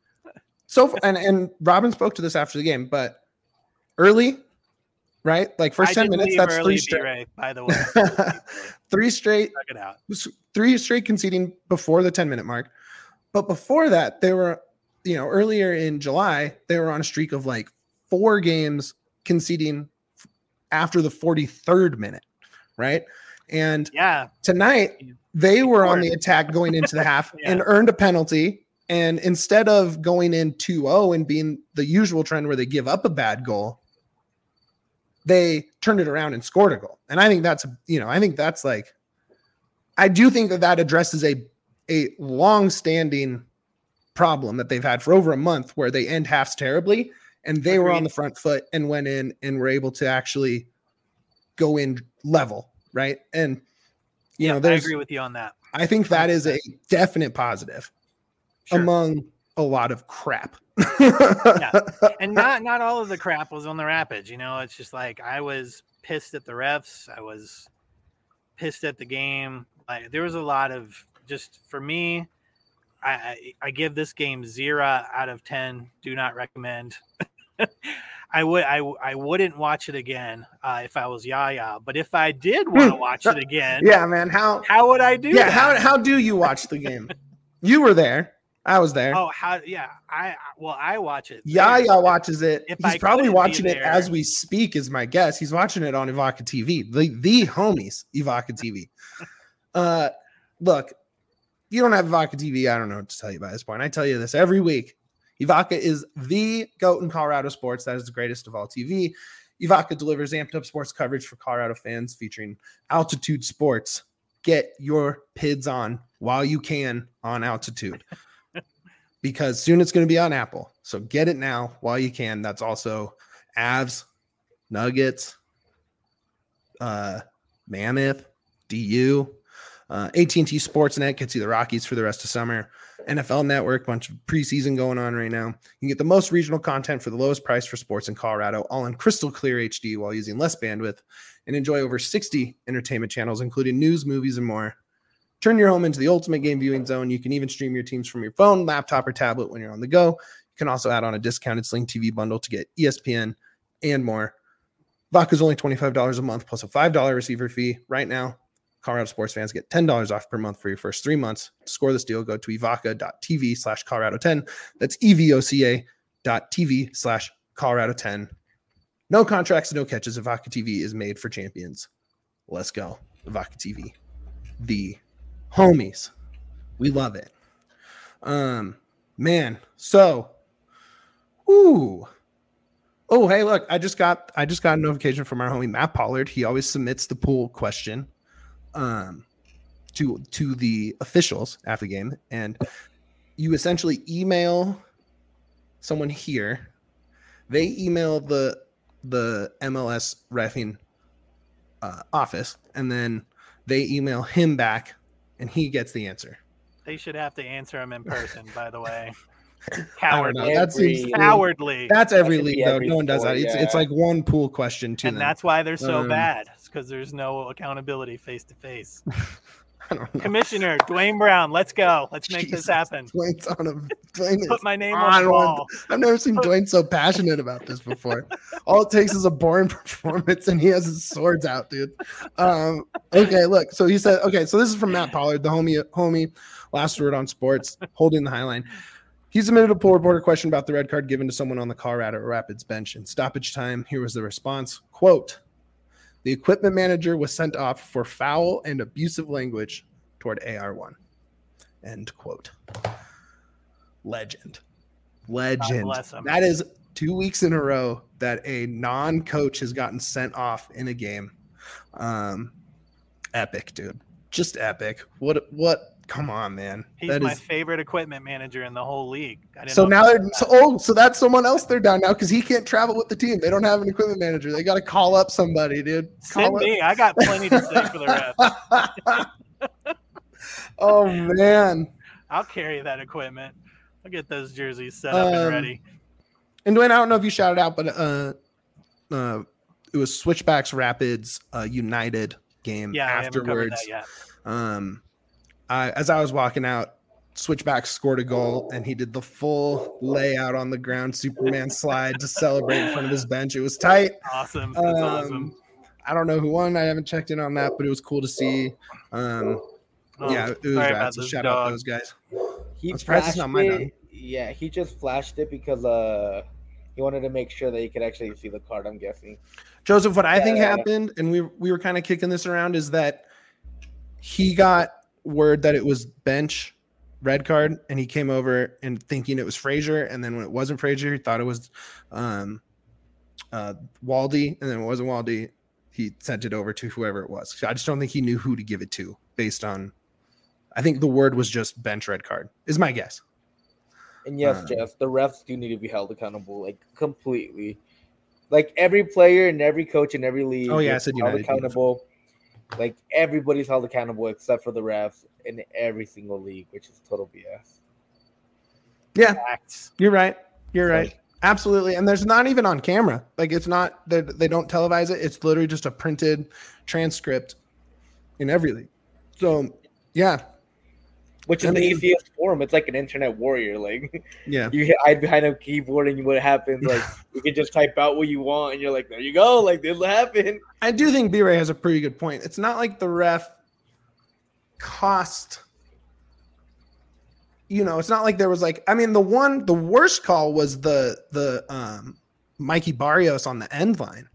Speaker 3: so and and Robin spoke to this after the game, but early, right? Like first
Speaker 2: I
Speaker 3: ten
Speaker 2: didn't
Speaker 3: minutes,
Speaker 2: leave
Speaker 3: that's
Speaker 2: early,
Speaker 3: three straight,
Speaker 2: B-Ray, by the way.
Speaker 3: three straight,
Speaker 2: Check it out.
Speaker 3: three straight conceding before the ten minute mark. But before that, they were, you know, earlier in July, they were on a streak of like four games conceding after the forty-third minute, right? And
Speaker 2: Yeah,
Speaker 3: tonight they were on the attack going into the half
Speaker 2: Yeah.
Speaker 3: and earned a penalty. And instead of going in two oh and being the usual trend where they give up a bad goal, they turned it around and scored a goal. And I think that's, you know, I think that's like, I do think that that addresses a, a long-standing problem that they've had for over a month where they end halves terribly, and they Agreed. Were on the front foot and went in and were able to actually go in level, right? And, you
Speaker 2: yeah,
Speaker 3: know, there's,
Speaker 2: I agree with you on that.
Speaker 3: I think that is a definite positive sure. among a lot of crap.
Speaker 2: yeah. And not not all of the crap was on the Rapids. You know, it's just like I was pissed at the refs. I was pissed at the game. Like there was a lot of just for me. I I, I give this game zero out of ten. Do not recommend. I would I I wouldn't watch it again uh, if I was Yaya. But if I did want to watch it again,
Speaker 3: yeah, man, how
Speaker 2: how would I do?
Speaker 3: Yeah,
Speaker 2: that?
Speaker 3: how how do you watch the game? You were there. I was there.
Speaker 2: Oh, how? Yeah, I well, I watch it.
Speaker 3: Yaya watches it.
Speaker 2: If
Speaker 3: He's
Speaker 2: I
Speaker 3: probably watching it
Speaker 2: there,
Speaker 3: as we speak. Is my guess. He's watching it on Evoca T V. The the homies Evoca T V. uh, look, you don't have Evoca T V. I don't know what to tell you by this point. I tell you this every week. Evoca is the GOAT in Colorado sports. That is the greatest of all T V. Evoca delivers amped up sports coverage for Colorado fans featuring Altitude Sports. Get your P I Ds on while you can on Altitude. Because soon it's going to be on Apple. So get it now while you can. That's also Avs, Nuggets, uh, Mammoth, D U, uh, A T and T Sportsnet gets you the Rockies for the rest of summer. N F L Network, bunch of preseason going on right now. You can get the most regional content for the lowest price for sports in Colorado, all in crystal clear H D while using less bandwidth, and enjoy over sixty entertainment channels, including news, movies, and more. Turn your home into the ultimate game viewing zone. You can even stream your teams from your phone, laptop, or tablet when you're on the go. You can also add on a discounted Sling T V bundle to get E S P N and more. Evoca is only twenty-five dollars a month plus a five dollars receiver fee. Right now, Colorado sports fans get ten dollars off per month for your first three months. To score this deal, go to evoca.tv slash Colorado 10. That's E-V-O-C-A dot TV slash Colorado 10. No contracts, no catches. Evoca T V is made for champions. Let's go. Evoca T V. The homies. We love it. Um, man. So, ooh. Oh, hey, look, I just got I just got a notification from our homie Matt Pollard. He always submits the pool question um to to the officials after the game. And you essentially email someone here. They email the the M L S reffing uh, office, and then they email him back. And he gets the answer.
Speaker 2: They should have to answer him in person, by the way.
Speaker 3: Cowardly.
Speaker 2: That seems cowardly.
Speaker 3: That's every that league, though. No one does that. It's, yeah. it's like one pool question to
Speaker 2: and
Speaker 3: them.
Speaker 2: And that's why they're so um, bad. It's because there's no accountability face to face. Commissioner Dwayne Brown, let's go. Let's make Jesus, this happen.
Speaker 3: Dwayne's on a Dwayne
Speaker 2: Put my name on the wall.
Speaker 3: I've never seen Dwayne so passionate about this before. All it takes is a boring performance, and he has his swords out, dude. Um, okay, look. So he said, okay, so this is from Matt Pollard, the homie, homie, last word on sports, holding the high line. He submitted a poll reporter question about the red card given to someone on the Colorado Rapids bench. In stoppage time, here was the response, quote, the equipment manager was sent off for foul and abusive language toward A R one. End quote. Legend. Legend. That is two weeks in a row that a non-coach has gotten sent off in a game. Um, epic, dude. Just epic. What? What? Come on, man.
Speaker 2: He's
Speaker 3: that
Speaker 2: my
Speaker 3: is...
Speaker 2: favorite equipment manager in the whole league.
Speaker 3: So now they're so, oh, so that's someone else they're down now because he can't travel with the team. They don't have an equipment manager. They got to call up somebody, dude. Call
Speaker 2: Send
Speaker 3: up.
Speaker 2: me. I got plenty to say for the rest.
Speaker 3: Oh man,
Speaker 2: I'll carry that equipment. I'll get those jerseys set up um, and ready.
Speaker 3: And Dwayne, I don't know if you shouted out, but uh, uh, it was Switchbacks Rapids uh, United game
Speaker 2: yeah,
Speaker 3: afterwards.
Speaker 2: I haven't covered that yet.
Speaker 3: Um. I, as I was walking out, Switchback scored a goal, and he did the full layout on the ground, Superman slide to celebrate in front of his bench. It was tight.
Speaker 2: Awesome. That's um, awesome.
Speaker 3: I don't know who won. I haven't checked in on that, but it was cool to see. Um, oh, yeah, it was rad. So shout dog. out those guys.
Speaker 1: He flashed not my it. Yeah, he just flashed it because uh, he wanted to make sure that he could actually see the card, I'm guessing.
Speaker 3: Joseph, what I
Speaker 1: yeah,
Speaker 3: think
Speaker 1: yeah,
Speaker 3: happened, and we we were kind of kicking this around, is that he got word that it was bench red card, and he came over and thinking it was Frazier, and then when it wasn't Frazier, he thought it was um uh, Waldy, and then it wasn't Waldy. He sent it over to whoever it was. So I just don't think he knew who to give it to based on. I think the word was just bench red card. Is my guess.
Speaker 1: And yes,
Speaker 3: Um,
Speaker 1: Jess, the refs do need to be held accountable, like completely. Like every player and every coach in every league.
Speaker 3: Oh, yeah, I
Speaker 1: is
Speaker 3: said
Speaker 1: held
Speaker 3: United.
Speaker 1: accountable. Like everybody's held accountable except for the refs in every single league, which is total B S.
Speaker 3: Yeah,
Speaker 2: Facts.
Speaker 3: you're right. You're
Speaker 1: So-
Speaker 3: right. Absolutely. And there's not even on camera. Like it's not, they they don't televise it. It's literally just a printed transcript in every league. So, yeah.
Speaker 1: Which is
Speaker 3: I
Speaker 1: the
Speaker 3: mean-
Speaker 1: easiest form. It's like an internet warrior. Like
Speaker 3: Yeah.
Speaker 1: you hit hide behind a keyboard and what happens? Like you can just type out what you want and you're like, there you go. Like this will happen.
Speaker 3: I do think B-Ray has a pretty good point. It's not like the ref cost, you know, it's not like there was like, I mean, the one, the worst call was the, the, um, Mikey Barrios on the end line.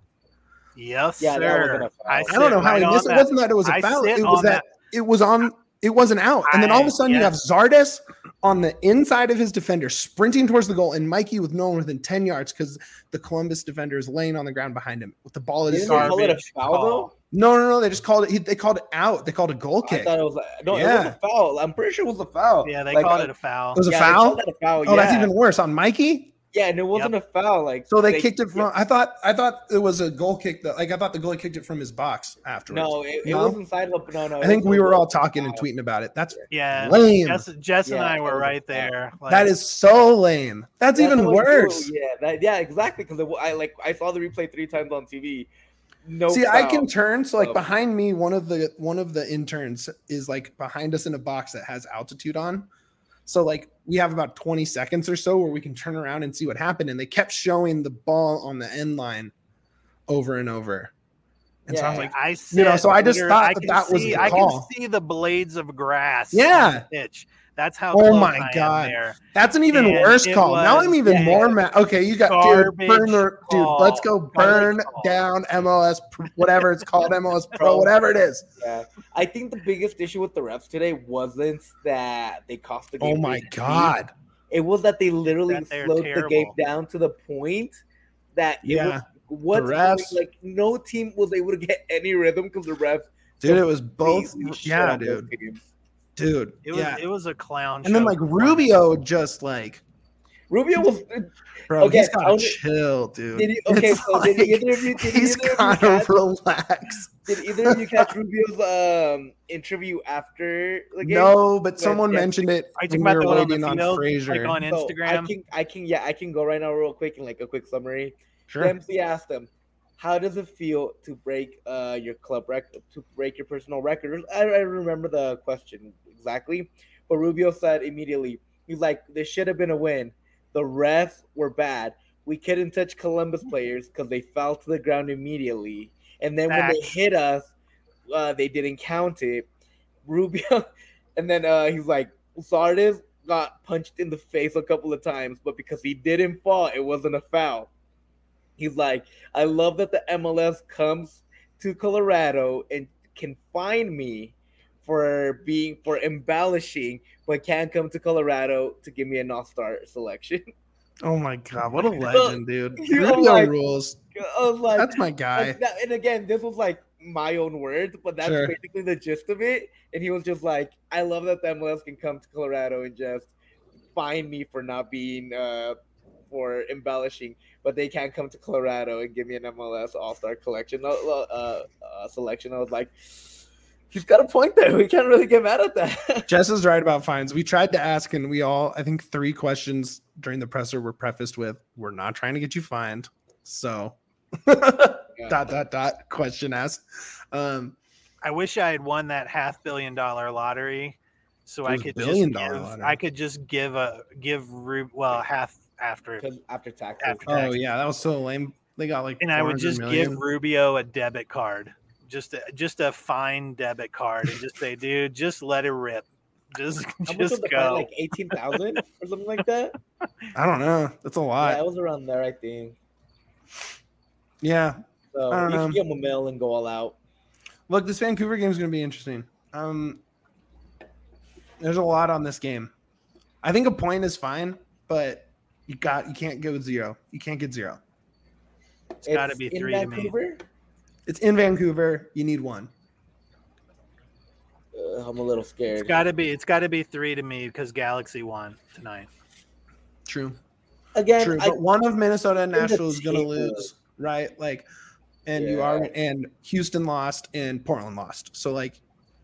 Speaker 2: Yes,
Speaker 1: Yeah, that
Speaker 2: sir.
Speaker 1: wasn't a foul.
Speaker 2: I,
Speaker 1: I
Speaker 3: I don't know
Speaker 2: sit
Speaker 3: how
Speaker 2: right
Speaker 3: he
Speaker 2: on
Speaker 3: missed it. It
Speaker 2: that.
Speaker 3: wasn't that it was a
Speaker 2: I
Speaker 3: foul.
Speaker 2: sit
Speaker 3: It was
Speaker 2: on
Speaker 3: that, it was on, it wasn't out. And then all of a
Speaker 2: I-
Speaker 3: sudden you have
Speaker 2: yes.
Speaker 3: Zardes on the inside of his defender sprinting towards the goal and Mikey with no one within ten yards because the Columbus defender is laying on the ground behind him with the ball in his
Speaker 1: Didn't they
Speaker 3: arm.
Speaker 1: call it a
Speaker 2: Garbage
Speaker 1: foul
Speaker 2: call.
Speaker 1: though?
Speaker 3: No, no, no. They just called it. He, they called it out. They called it a goal
Speaker 1: I
Speaker 3: kick.
Speaker 1: thought it was like, no, it
Speaker 3: Yeah.
Speaker 1: was a foul. I'm pretty sure it was a foul.
Speaker 2: Yeah, they
Speaker 1: Like,
Speaker 2: called
Speaker 1: I-
Speaker 2: it a foul.
Speaker 3: It was a
Speaker 1: yeah, they
Speaker 3: foul.
Speaker 1: called that a foul.
Speaker 3: Oh,
Speaker 1: yeah.
Speaker 3: that's even worse on Mikey.
Speaker 1: Yeah, and it wasn't a foul. Like
Speaker 3: So they, kicked it from. I thought. I thought it was a goal kick. That like I thought the goalie kicked it from his box afterwards.
Speaker 1: No, it, it
Speaker 3: No?
Speaker 1: was inside of no, no.
Speaker 3: I think
Speaker 1: it was
Speaker 3: we
Speaker 1: a
Speaker 3: were
Speaker 1: goal
Speaker 3: all
Speaker 1: kick
Speaker 3: talking and
Speaker 1: foul.
Speaker 3: tweeting about it. That's
Speaker 2: Yeah,
Speaker 3: lame.
Speaker 2: Jess, Jess and
Speaker 1: Yeah,
Speaker 2: I
Speaker 1: that
Speaker 2: were
Speaker 1: was a
Speaker 2: right
Speaker 1: foul.
Speaker 2: there. Like,
Speaker 3: That is so lame. That's,
Speaker 1: That's
Speaker 3: even
Speaker 1: how I do.
Speaker 3: worse.
Speaker 1: Yeah, that, yeah, exactly. Because I like I saw the replay three times on T V. No,
Speaker 3: See, I
Speaker 1: foul.
Speaker 3: can turn. So like
Speaker 1: Oh.
Speaker 3: behind me, one of the one of the interns is like behind us in a box that has altitude on. So like we have about twenty seconds or so where we can turn around and see what happened. And they kept showing the ball on the end line over and over. And so I was
Speaker 1: Yeah.
Speaker 3: like,
Speaker 2: I
Speaker 3: You know,
Speaker 2: said
Speaker 3: so I just
Speaker 2: liter-
Speaker 3: thought
Speaker 2: I
Speaker 3: that
Speaker 2: can
Speaker 3: that was
Speaker 2: see,
Speaker 3: the
Speaker 2: I
Speaker 3: call.
Speaker 2: can see the blades of grass.
Speaker 3: Yeah.
Speaker 2: on the pitch. That's how.
Speaker 3: Oh
Speaker 2: close
Speaker 3: my
Speaker 2: I am
Speaker 3: God.
Speaker 2: there.
Speaker 3: that's an even
Speaker 2: And
Speaker 3: worse
Speaker 2: it
Speaker 3: call. Now
Speaker 2: was
Speaker 3: I'm even
Speaker 2: a
Speaker 3: more mad. Okay, you got dude, burn the
Speaker 2: garbage
Speaker 3: dude.
Speaker 2: call.
Speaker 3: Let's go
Speaker 2: Garbage
Speaker 3: burn
Speaker 2: call.
Speaker 3: down M L S, Pro- whatever it's called, M L S Pro,
Speaker 1: Pro.
Speaker 3: whatever it is.
Speaker 1: Yeah, I think the biggest issue with the refs today wasn't that they cost the game.
Speaker 3: Oh my
Speaker 1: three
Speaker 3: God.
Speaker 1: It was that they literally
Speaker 2: That they're
Speaker 1: slowed the game
Speaker 2: terrible.
Speaker 1: down to the point that it
Speaker 3: Yeah.
Speaker 1: was what's
Speaker 3: The refs-
Speaker 1: like no team was able to get any rhythm because the refs
Speaker 3: Dude, it was both.
Speaker 1: completely shit
Speaker 3: Yeah,
Speaker 1: on both
Speaker 3: dude.
Speaker 1: teams.
Speaker 3: Dude.
Speaker 2: It was.
Speaker 3: yeah.
Speaker 2: It was a clown.
Speaker 3: And then
Speaker 2: show
Speaker 3: like
Speaker 2: performance.
Speaker 3: Rubio just like,
Speaker 1: Rubio was
Speaker 3: bro,
Speaker 1: Okay,
Speaker 3: he's
Speaker 1: I
Speaker 3: gotta
Speaker 1: only-
Speaker 3: chill, dude.
Speaker 1: did he, okay.
Speaker 3: It's
Speaker 1: So did
Speaker 3: like,
Speaker 1: either of you did
Speaker 3: he's
Speaker 1: either of you
Speaker 3: gotta
Speaker 1: catch,
Speaker 3: relax.
Speaker 1: did either of you catch Rubio's um interview after the game?
Speaker 3: No, but
Speaker 1: But
Speaker 3: someone
Speaker 1: yeah.
Speaker 3: mentioned it
Speaker 2: Are you talking
Speaker 3: when
Speaker 2: about
Speaker 3: we
Speaker 2: the
Speaker 3: were
Speaker 2: one on the
Speaker 3: waiting on
Speaker 2: field,
Speaker 3: Frazier.
Speaker 2: like on
Speaker 1: So I
Speaker 2: Instagram?
Speaker 1: can I can yeah I can go right now real quick and like a quick summary.
Speaker 3: Sure.
Speaker 1: Dempsey asked him, "How does it feel to break uh your club record, to break your personal record?" I, I remember the question exactly, but Rubio said immediately, he's like, "This should have been a win. The refs were bad. We couldn't touch Columbus players because they fell to the ground immediately, and then when they
Speaker 2: Facts.
Speaker 1: hit us, uh, they didn't count it." Rubio, and then uh, he's like, "Zardes got punched in the face a couple of times, but because he didn't fall, it wasn't a foul." He's like, I love that the M L S comes to Colorado and can find me for being for embellishing, but can't come to Colorado to give me an all-star selection.
Speaker 3: Oh my God, what a legend, dude.
Speaker 1: You know,
Speaker 3: Rubio
Speaker 1: like-
Speaker 3: rules.
Speaker 1: I was like,
Speaker 3: That's my guy.
Speaker 1: and, that- and again, this was like my own words, but that's
Speaker 3: Sure.
Speaker 1: basically the gist of it. And he was just like, I love that the M L S can come to Colorado and just find me for not being uh for embellishing, but they can't come to Colorado and give me an M L S All Star collection uh, uh, uh, selection. I was like, he's got a point there. We can't really get mad at that.
Speaker 3: Jess is right about fines. We tried to ask, and we all, I think, three questions during the presser were prefaced with, "We're not trying to get you fined." So, dot dot dot question asked. Um,
Speaker 2: I wish I had won that half billion dollar lottery, so
Speaker 3: It
Speaker 2: I
Speaker 3: was
Speaker 2: could
Speaker 3: billion
Speaker 2: just
Speaker 3: dollar
Speaker 2: give,
Speaker 3: lottery.
Speaker 2: I could just give a give Ru- well half after,
Speaker 1: Because after taxes,
Speaker 2: After
Speaker 3: oh
Speaker 2: taxes.
Speaker 3: yeah, that was so lame. They got like,
Speaker 2: and I would
Speaker 3: four hundred
Speaker 2: just
Speaker 3: million.
Speaker 2: give Rubio a debit card, just a, just a fine debit card, and just say, dude, just let it rip, just
Speaker 1: how much was
Speaker 2: just
Speaker 1: the fine?
Speaker 2: go.
Speaker 1: Like eighteen thousand or something like that.
Speaker 3: I don't know. That's a lot.
Speaker 1: Yeah, it was around there, I think.
Speaker 3: Yeah.
Speaker 1: So
Speaker 3: I don't
Speaker 1: you
Speaker 3: know.
Speaker 1: should give him a mill and go all out.
Speaker 3: Look, this Vancouver game is going to be interesting. Um, there's a lot on this game. I think a point is fine, but you got you can't go zero. You can't get zero.
Speaker 2: It's got to be
Speaker 1: in
Speaker 2: three to me.
Speaker 1: Vancouver.
Speaker 3: It's in Vancouver. You need one.
Speaker 1: Uh, I'm a little scared.
Speaker 2: It's got to be. It's got to be three to me because Galaxy won tonight.
Speaker 3: True.
Speaker 1: Again,
Speaker 3: True.
Speaker 1: I,
Speaker 3: But one of Minnesota and
Speaker 1: in the
Speaker 3: Nashville is going to
Speaker 1: table.
Speaker 3: lose, right? Like, and you
Speaker 1: Yeah.
Speaker 3: are, and Houston lost and Portland lost. So like,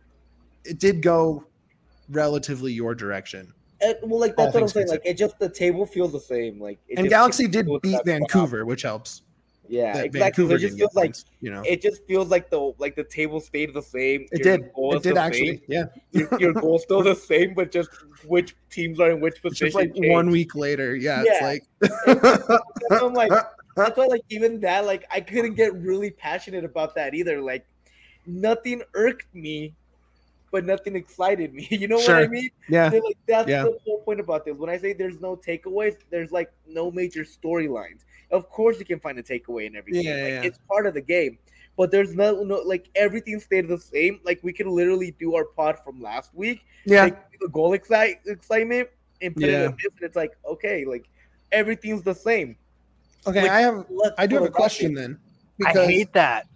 Speaker 3: it did go relatively your direction.
Speaker 1: it, well, like
Speaker 3: all
Speaker 1: that's what I'm
Speaker 3: things
Speaker 1: saying.
Speaker 3: considered.
Speaker 1: Like, it just the table feels the same. Like, it
Speaker 3: And
Speaker 1: just
Speaker 3: Galaxy
Speaker 1: feels
Speaker 3: did
Speaker 1: like
Speaker 3: beat
Speaker 1: that spot.
Speaker 3: Vancouver, which helps.
Speaker 1: Yeah,
Speaker 3: That
Speaker 1: exactly. So
Speaker 3: Vancouver
Speaker 1: it just
Speaker 3: didn't get
Speaker 1: feels like
Speaker 3: points, you know.
Speaker 1: it just feels like the like the table stayed the same.
Speaker 3: It
Speaker 1: your
Speaker 3: did.
Speaker 1: goal
Speaker 3: It
Speaker 1: is
Speaker 3: did
Speaker 1: the
Speaker 3: actually.
Speaker 1: same.
Speaker 3: Yeah.
Speaker 1: Your, your goal's still the same, but just which teams are in which
Speaker 3: It's
Speaker 1: position.
Speaker 3: just like
Speaker 1: changed.
Speaker 3: one week later. Yeah.
Speaker 1: Yeah.
Speaker 3: It's like.
Speaker 1: I'm like, that's why, like, even that, like, I couldn't get really passionate about that either. Like, nothing irked me, but nothing excited me. You know what I
Speaker 3: Sure.
Speaker 1: mean?
Speaker 3: yeah.
Speaker 1: So, like, that's
Speaker 3: Yeah.
Speaker 1: the whole point about this. When I say there's no takeaways, there's like no major storylines. Of course, you can find a takeaway in every game.
Speaker 3: Yeah,
Speaker 1: Like,
Speaker 3: yeah.
Speaker 1: it's part of the game. But there's no, no, like, everything stayed the same. Like, we could literally do our pod from last week,
Speaker 3: Yeah.
Speaker 1: take the goal excite, excitement, and put
Speaker 3: Yeah.
Speaker 1: it in this, and it's like, okay, like, everything's the same.
Speaker 3: Okay.
Speaker 1: Like,
Speaker 3: I have.
Speaker 1: Look
Speaker 3: I do
Speaker 1: for
Speaker 3: have a
Speaker 1: the
Speaker 3: question
Speaker 1: Rockets.
Speaker 3: then.
Speaker 2: I hate that.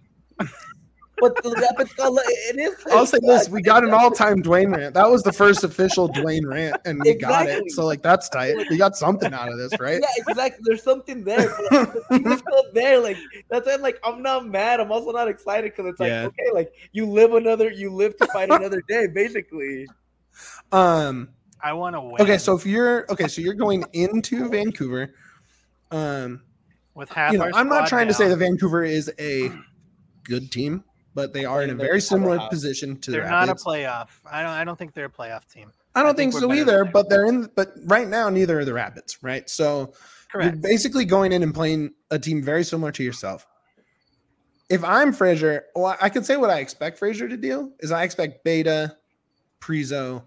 Speaker 1: But the Rapids got like, it is.
Speaker 3: I'll say this: we got an all-time Dwayne rant. That was the first official Dwayne rant, and we got it.
Speaker 1: Exactly.
Speaker 3: So like, that's tight. We got something out of this, right?
Speaker 1: Yeah, exactly. There's something there. But the team is still there. Like, that's why I'm like, I'm not mad. I'm also not excited because it's like,
Speaker 3: Yeah.
Speaker 1: okay, like, you live another, you live to fight another day, basically.
Speaker 3: Um.
Speaker 2: I want to win.
Speaker 3: Okay, so if you're okay, so you're going into Vancouver. Um.
Speaker 2: with half
Speaker 3: You know,
Speaker 2: our
Speaker 3: I'm not
Speaker 2: squad
Speaker 3: trying to say
Speaker 2: down,
Speaker 3: that Vancouver is a good team, but they are in a
Speaker 1: They're
Speaker 3: very similar
Speaker 1: powerhouse.
Speaker 3: position to the
Speaker 2: they're not a
Speaker 3: Rapids.
Speaker 2: playoff. I don't. I don't think they're a playoff team.
Speaker 3: I don't
Speaker 2: I think
Speaker 3: think,
Speaker 2: we're
Speaker 3: so
Speaker 2: better
Speaker 3: either,
Speaker 2: than
Speaker 3: but they're in. But right now, neither are the Rapids, right? So you're
Speaker 2: Correct.
Speaker 3: basically going in and playing a team very similar to yourself. If I'm Frazier, well, I can say what I expect Frazier to do is I expect Beta, Prizo,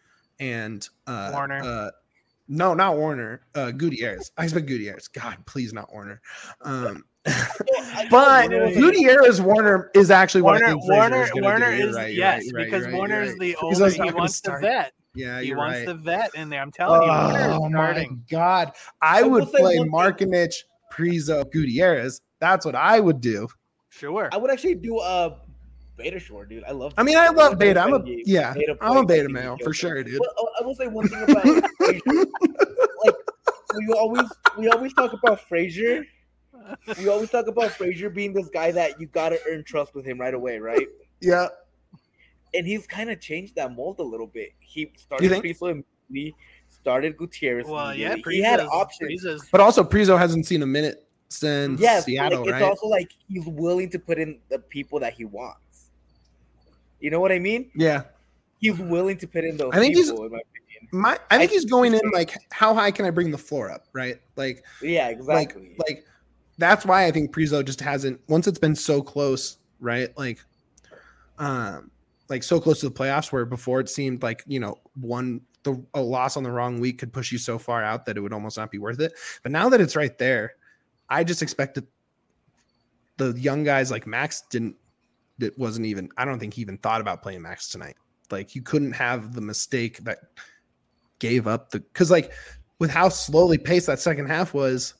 Speaker 3: and uh,
Speaker 2: Warner.
Speaker 3: Uh, no, not Warner. Uh, Gutierrez. I expect Gutierrez. God, please, not Warner. Um,
Speaker 1: I-
Speaker 3: but
Speaker 1: Warner was a-
Speaker 3: Gutierrez Warner is actually what I
Speaker 2: Warner,
Speaker 3: think Frazier
Speaker 2: Warner,
Speaker 3: is gonna
Speaker 2: Warner
Speaker 3: do. You're
Speaker 2: is
Speaker 3: right, you're
Speaker 2: yes,
Speaker 3: right, you're right,
Speaker 2: because
Speaker 3: you're right,
Speaker 2: Warner
Speaker 3: you're
Speaker 2: is
Speaker 3: right.
Speaker 2: the
Speaker 3: Frizo's
Speaker 2: older.
Speaker 3: not
Speaker 2: He
Speaker 3: gonna
Speaker 2: wants
Speaker 3: start.
Speaker 2: the vet.
Speaker 3: Yeah,
Speaker 2: He
Speaker 3: you're
Speaker 2: wants
Speaker 3: right.
Speaker 2: the vet in there. I'm telling you, Warner is
Speaker 3: Oh my
Speaker 2: starting.
Speaker 3: god! I
Speaker 1: I will
Speaker 3: would
Speaker 1: say
Speaker 3: play
Speaker 1: one thing.
Speaker 3: Markinich, Prizo, Gutierrez. That's what I would do.
Speaker 2: Sure.
Speaker 1: I would actually do a Beta Shore, dude. I love.
Speaker 3: I mean, I love
Speaker 1: Like,
Speaker 3: Beta. I'm a
Speaker 1: friendly
Speaker 3: yeah.
Speaker 1: Beta
Speaker 3: I'm a
Speaker 1: plays, I
Speaker 3: Beta
Speaker 1: think he
Speaker 3: male for
Speaker 1: kills
Speaker 3: sure,
Speaker 1: it.
Speaker 3: dude.
Speaker 1: But uh, I will say one thing about Frazier. Like, we always we always talk about Frazier. We always talk about Frazier being this guy that you gotta earn trust with him right away, right?
Speaker 3: Yeah.
Speaker 1: And he's kind of changed that mold a little bit. He
Speaker 3: You
Speaker 1: started
Speaker 3: think?
Speaker 1: Priso immediately, started Gutierrez.
Speaker 2: Well, yeah,
Speaker 1: immediately. he had
Speaker 2: Priza's-
Speaker 1: options.
Speaker 2: Priza's-
Speaker 3: But also, Prizo hasn't seen a minute since
Speaker 1: Yes, but,
Speaker 3: Seattle,
Speaker 1: like, it's
Speaker 3: right?
Speaker 1: also like he's willing to put in the people that he wants. You know what I mean?
Speaker 3: yeah.
Speaker 1: He's willing to put in those
Speaker 3: I think he's-
Speaker 1: people, in my opinion.
Speaker 3: My, I think
Speaker 1: I-
Speaker 3: he's going in like, how high can I bring the floor up, right? Like,
Speaker 1: Yeah, exactly.
Speaker 3: like, like that's why I think Prizo just hasn't. Once it's been so close, right? Like, um, like so close to the playoffs, where before it seemed like you know one the a loss on the wrong week could push you so far out that it would almost not be worth it. But now that it's right there, I just expected the young guys like Max didn't. That wasn't even. I don't think he even thought about playing Max tonight. Like you couldn't have the mistake that gave up the because like with how slowly paced that second half was,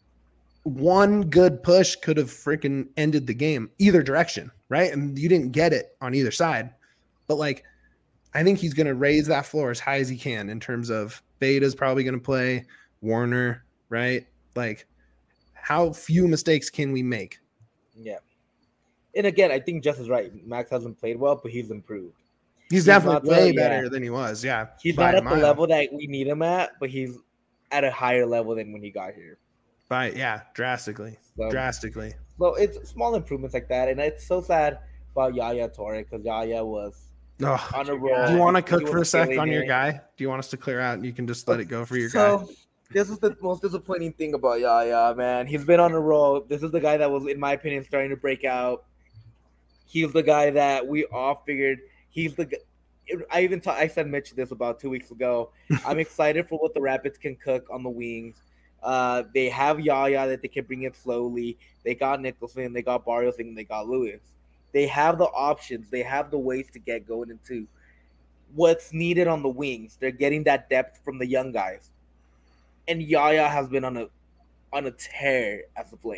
Speaker 3: one good push could have freaking ended the game either direction, right? And you didn't get it on either side. But like, I think he's going to raise that floor as high as he can in terms of Beta's probably going to play Warner, right? Like, how few mistakes can we make?
Speaker 1: Yeah. And again, I think Jess is right. Max hasn't played well, but he's improved.
Speaker 3: He's,
Speaker 1: He's
Speaker 3: definitely
Speaker 1: not the-
Speaker 3: way
Speaker 1: yeah.
Speaker 3: better than he was. Yeah.
Speaker 1: He's
Speaker 3: by
Speaker 1: not
Speaker 3: a
Speaker 1: at the
Speaker 3: mile.
Speaker 1: level that we need him at, but he's at a higher level than when he got here.
Speaker 3: By, yeah, drastically.
Speaker 1: So,
Speaker 3: Drastically.
Speaker 1: so it's small improvements like that. And it's so sad about Yaya Torre because Yaya was
Speaker 3: Oh,
Speaker 1: on a roll.
Speaker 3: do you want to
Speaker 1: He
Speaker 3: cook
Speaker 1: was
Speaker 3: for a sec
Speaker 1: killing
Speaker 3: on your
Speaker 1: it.
Speaker 3: guy? Do you want us to clear out and you can just let it go for your guy?
Speaker 1: So this is the most disappointing thing about Yaya, man. He's been on a roll. This is the guy that was, in my opinion, starting to break out. He's the guy that we all figured he's the. I even ta- I said Mitch this about two weeks ago. I'm excited for what the Rapids can cook on the wings. Uh, they have Yaya that they can bring in slowly. They got Nicholson, they got Barrios, and they got Lewis. They have the options. They have the ways to get going into what's needed on the wings. They're getting that depth from the young guys. And Yaya has been on a on a tear as of late.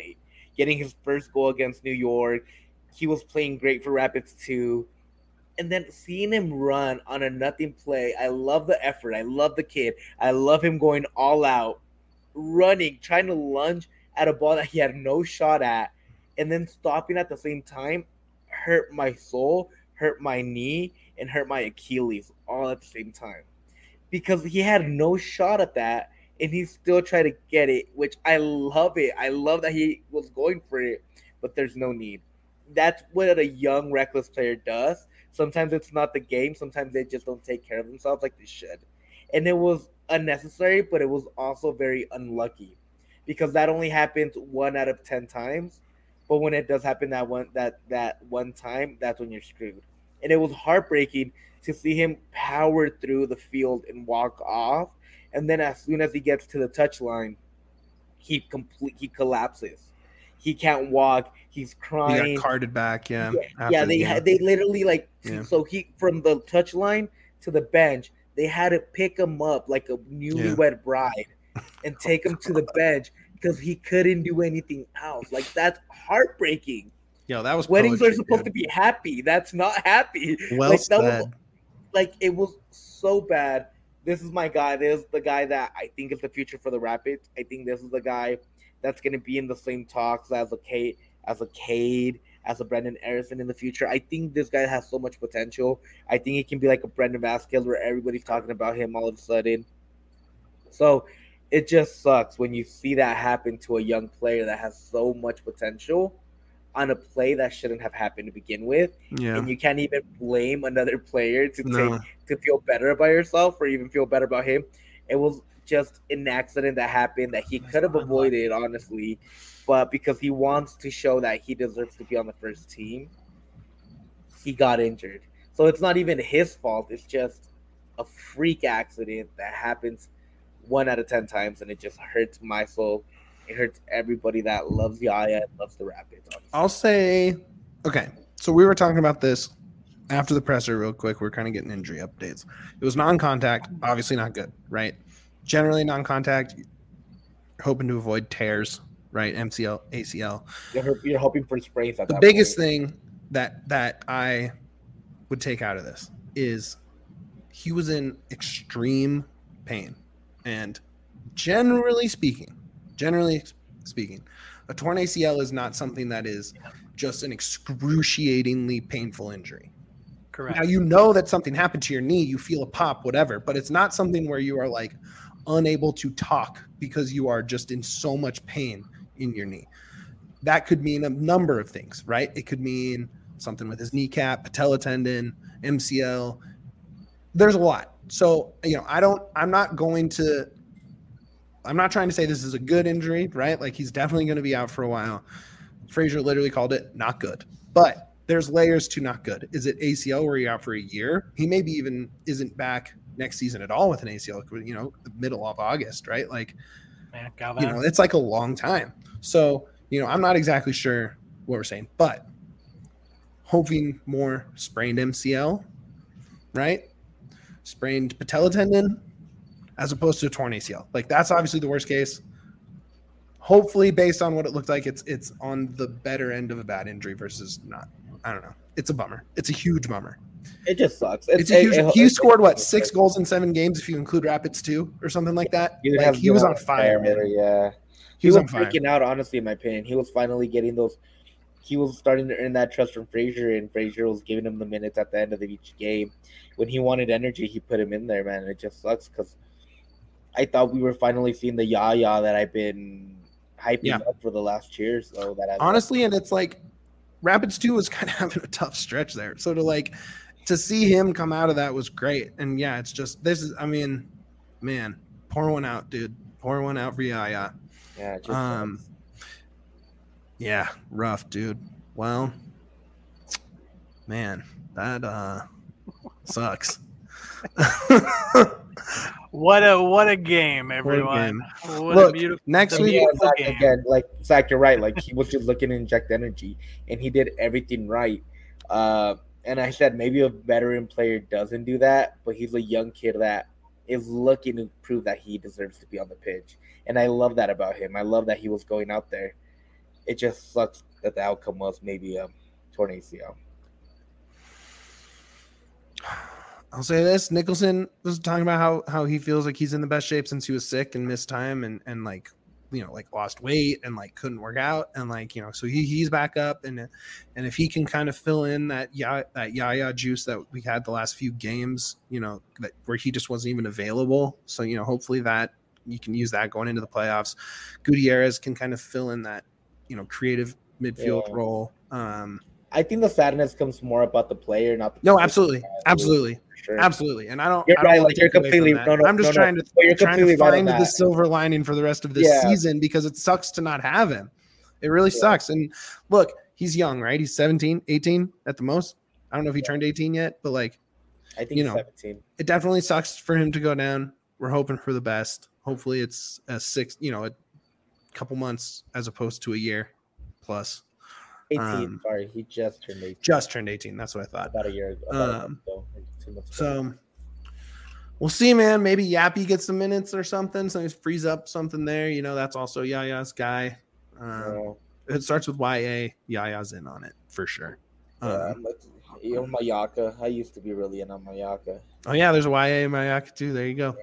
Speaker 1: getting his first goal against New York. He was playing great for Rapids too. And then seeing him run on a nothing play, I love the effort. I love the kid. I love him going all out, running, trying to lunge at a ball that he had no shot at, and then stopping at the same time hurt my soul, hurt my knee, and hurt my Achilles all at the same time. Because he had no shot at that, and he still tried to get it, which I love it. I love that he was going for it, but there's no need. That's what a young, reckless player does. Sometimes it's not the game. Sometimes they just don't take care of themselves like they should. And it was unnecessary, but it was also very unlucky because that only happens one out of ten times. But when it does happen that one that that one time, that's when you're screwed. And it was heartbreaking to see him power through the field and walk off. And then as soon as he gets to the touchline, he complete he collapses. He can't walk. He's crying.
Speaker 3: He got carted back. Yeah.
Speaker 1: Yeah, yeah they had, they literally like yeah. so he from the touchline to the bench, they had to pick him up like a newlywed yeah. bride and take him to the bench because he couldn't do anything else. Like that's heartbreaking.
Speaker 3: Yo, that was
Speaker 1: weddings
Speaker 3: poetry,
Speaker 1: are supposed
Speaker 3: dude.
Speaker 1: to be happy. That's not happy.
Speaker 3: Well
Speaker 1: like,
Speaker 3: said.
Speaker 1: That was, like it was so bad. This is my guy. This is the guy that I think is the future for the Rapids. I think this is the guy that's going to be in the same talks as a Kate, as a Cade, as a Brendan Harrison in the future. I think this guy has so much potential. I think he can be like a Brendan Vasquez where everybody's talking about him all of a sudden. So it just sucks when you see that happen to a young player that has so much potential on a play that shouldn't have happened to begin with.
Speaker 3: Yeah.
Speaker 1: And you can't even blame another player to
Speaker 3: No.
Speaker 1: take to feel better about yourself or even feel better about him. It was just an accident that happened that he could have avoided, honestly. But because he wants to show that he deserves to be on the first team, he got injured. So it's not even his fault. It's just a freak accident that happens one out of ten times, and it just hurts my soul. It hurts everybody that loves Yaya and loves the Rapids. Honestly.
Speaker 3: I'll say, okay, so we were talking about this after the presser real quick. We're kind of getting injury updates. It was non-contact, obviously not good, right? Generally non-contact, hoping to avoid tears, right? M C L, A C L.
Speaker 1: You're, you're hoping for sprains at
Speaker 3: the
Speaker 1: that
Speaker 3: biggest
Speaker 1: point.
Speaker 3: thing that that I would take out of this is he was in extreme pain. And generally speaking, generally speaking, a torn A C L is not something that is just an excruciatingly painful injury.
Speaker 2: Correct.
Speaker 3: Now, you know that something happened to your knee, you feel a pop, whatever, but it's not something where you are like unable to talk because you are just in so much pain in your knee. That could mean a number of things, right? It could mean something with his kneecap, patella tendon, M C L. There's a lot. So, you know, I don't, I'm not going to, I'm not trying to say this is a good injury, right? Like he's definitely going to be out for a while. Frazier literally called it not good, but there's layers to not good. Is it A C L where you're out for a year? He maybe even isn't back next season at all with an A C L, you know, the middle of August, right? Like,
Speaker 2: Man,
Speaker 3: you know, it's like a long time. So, you know, I'm not exactly sure what we're saying, but hoping more sprained M C L, right? Sprained patella tendon as opposed to a torn A C L. Like that's obviously the worst case. Hopefully, based on what it looked like, it's it's on the better end of a bad injury versus not. I don't know. It's a bummer. It's a huge bummer.
Speaker 1: It just sucks.
Speaker 3: It's, it's a huge. It, it, he scored what six goals in seven games if you include Rapids too, or something like that.
Speaker 1: He,
Speaker 3: like, he was on fire, man.
Speaker 1: Yeah, he, he was, was freaking out. Honestly, in my opinion, he was finally getting those. He was starting to earn that trust from Frazier, and Frazier was giving him the minutes at the end of each game. When he wanted energy, he put him in there, man. It just sucks because I thought we were finally seeing the Yaya that I've been hyping yeah. up for the last year. So that I
Speaker 3: honestly, and it's like Rapids two was kind of having a tough stretch there. So to like to see him come out of that was great. And yeah, it's just this is. I mean, man, pour one out, dude. Pour one out for Yaya.
Speaker 1: Yeah. Just
Speaker 3: um. Sucks. Yeah, rough, dude. Well, man, that uh sucks.
Speaker 2: What a what a game, everyone!
Speaker 3: What a game.
Speaker 2: What
Speaker 3: Look,
Speaker 2: a beautiful,
Speaker 3: next week
Speaker 1: yeah, Zach, again, like Zach, you're right. Like he was just looking to inject energy, and he did everything right. Uh, and I said maybe a veteran player doesn't do that, but he's a young kid that is looking to prove that he deserves to be on the pitch, and I love that about him. I love that he was going out there. It just sucks that the outcome was maybe a torn A C L.
Speaker 3: I'll say this: Nicholson was talking about how how he feels like he's in the best shape since he was sick and missed time and and like you know like lost weight and like couldn't work out and like you know so he he's back up and and if he can kind of fill in that yeah that Yaya juice that we had the last few games, you know that where he just wasn't even available. So you know hopefully that you can use that going into the playoffs. Gutierrez can kind of fill in that you know creative midfield
Speaker 1: Yeah.
Speaker 3: role. Um,
Speaker 1: I think the sadness comes more about the player, not the
Speaker 3: no,
Speaker 1: position.
Speaker 3: absolutely, absolutely.
Speaker 1: Sure.
Speaker 3: Absolutely, and I don't.
Speaker 1: You're
Speaker 3: I don't
Speaker 1: right.
Speaker 3: wanna
Speaker 1: Like you're
Speaker 3: take away from
Speaker 1: completely.
Speaker 3: that.
Speaker 1: No, no,
Speaker 3: I'm just
Speaker 1: no,
Speaker 3: trying
Speaker 1: no.
Speaker 3: to
Speaker 1: But you're
Speaker 3: trying to
Speaker 1: completely right on
Speaker 3: find the
Speaker 1: that.
Speaker 3: silver lining for the rest of this
Speaker 1: Yeah.
Speaker 3: season because it sucks to not have him. It really
Speaker 1: Yeah.
Speaker 3: sucks. And look, he's young, right? He's seventeen, eighteen at the most. I don't know if he turned eighteen yet, but like
Speaker 1: I think
Speaker 3: you
Speaker 1: he's
Speaker 3: know.
Speaker 1: seventeen.
Speaker 3: it definitely sucks for him to go down. We're hoping for the best. Hopefully, it's a six, you know, a couple months as opposed to a year plus.
Speaker 1: eighteen.
Speaker 3: Um,
Speaker 1: Sorry, he just turned eighteen.
Speaker 3: Just turned eighteen. That's what I thought.
Speaker 1: About a year. About a month
Speaker 3: Um,
Speaker 1: ago, like two months ago.
Speaker 3: So we'll see, man. Maybe Yappy gets some minutes or something. So he frees up something there. You know, that's also Yaya's guy. Um,
Speaker 1: Yeah.
Speaker 3: It starts with Y A. Yaya's in on it for sure.
Speaker 1: Yeah,
Speaker 3: Um,
Speaker 1: I'm like, you know, Mayaka. I used to be really in on Mayaka.
Speaker 3: oh yeah, there's a Y A in Mayaka too. There you go.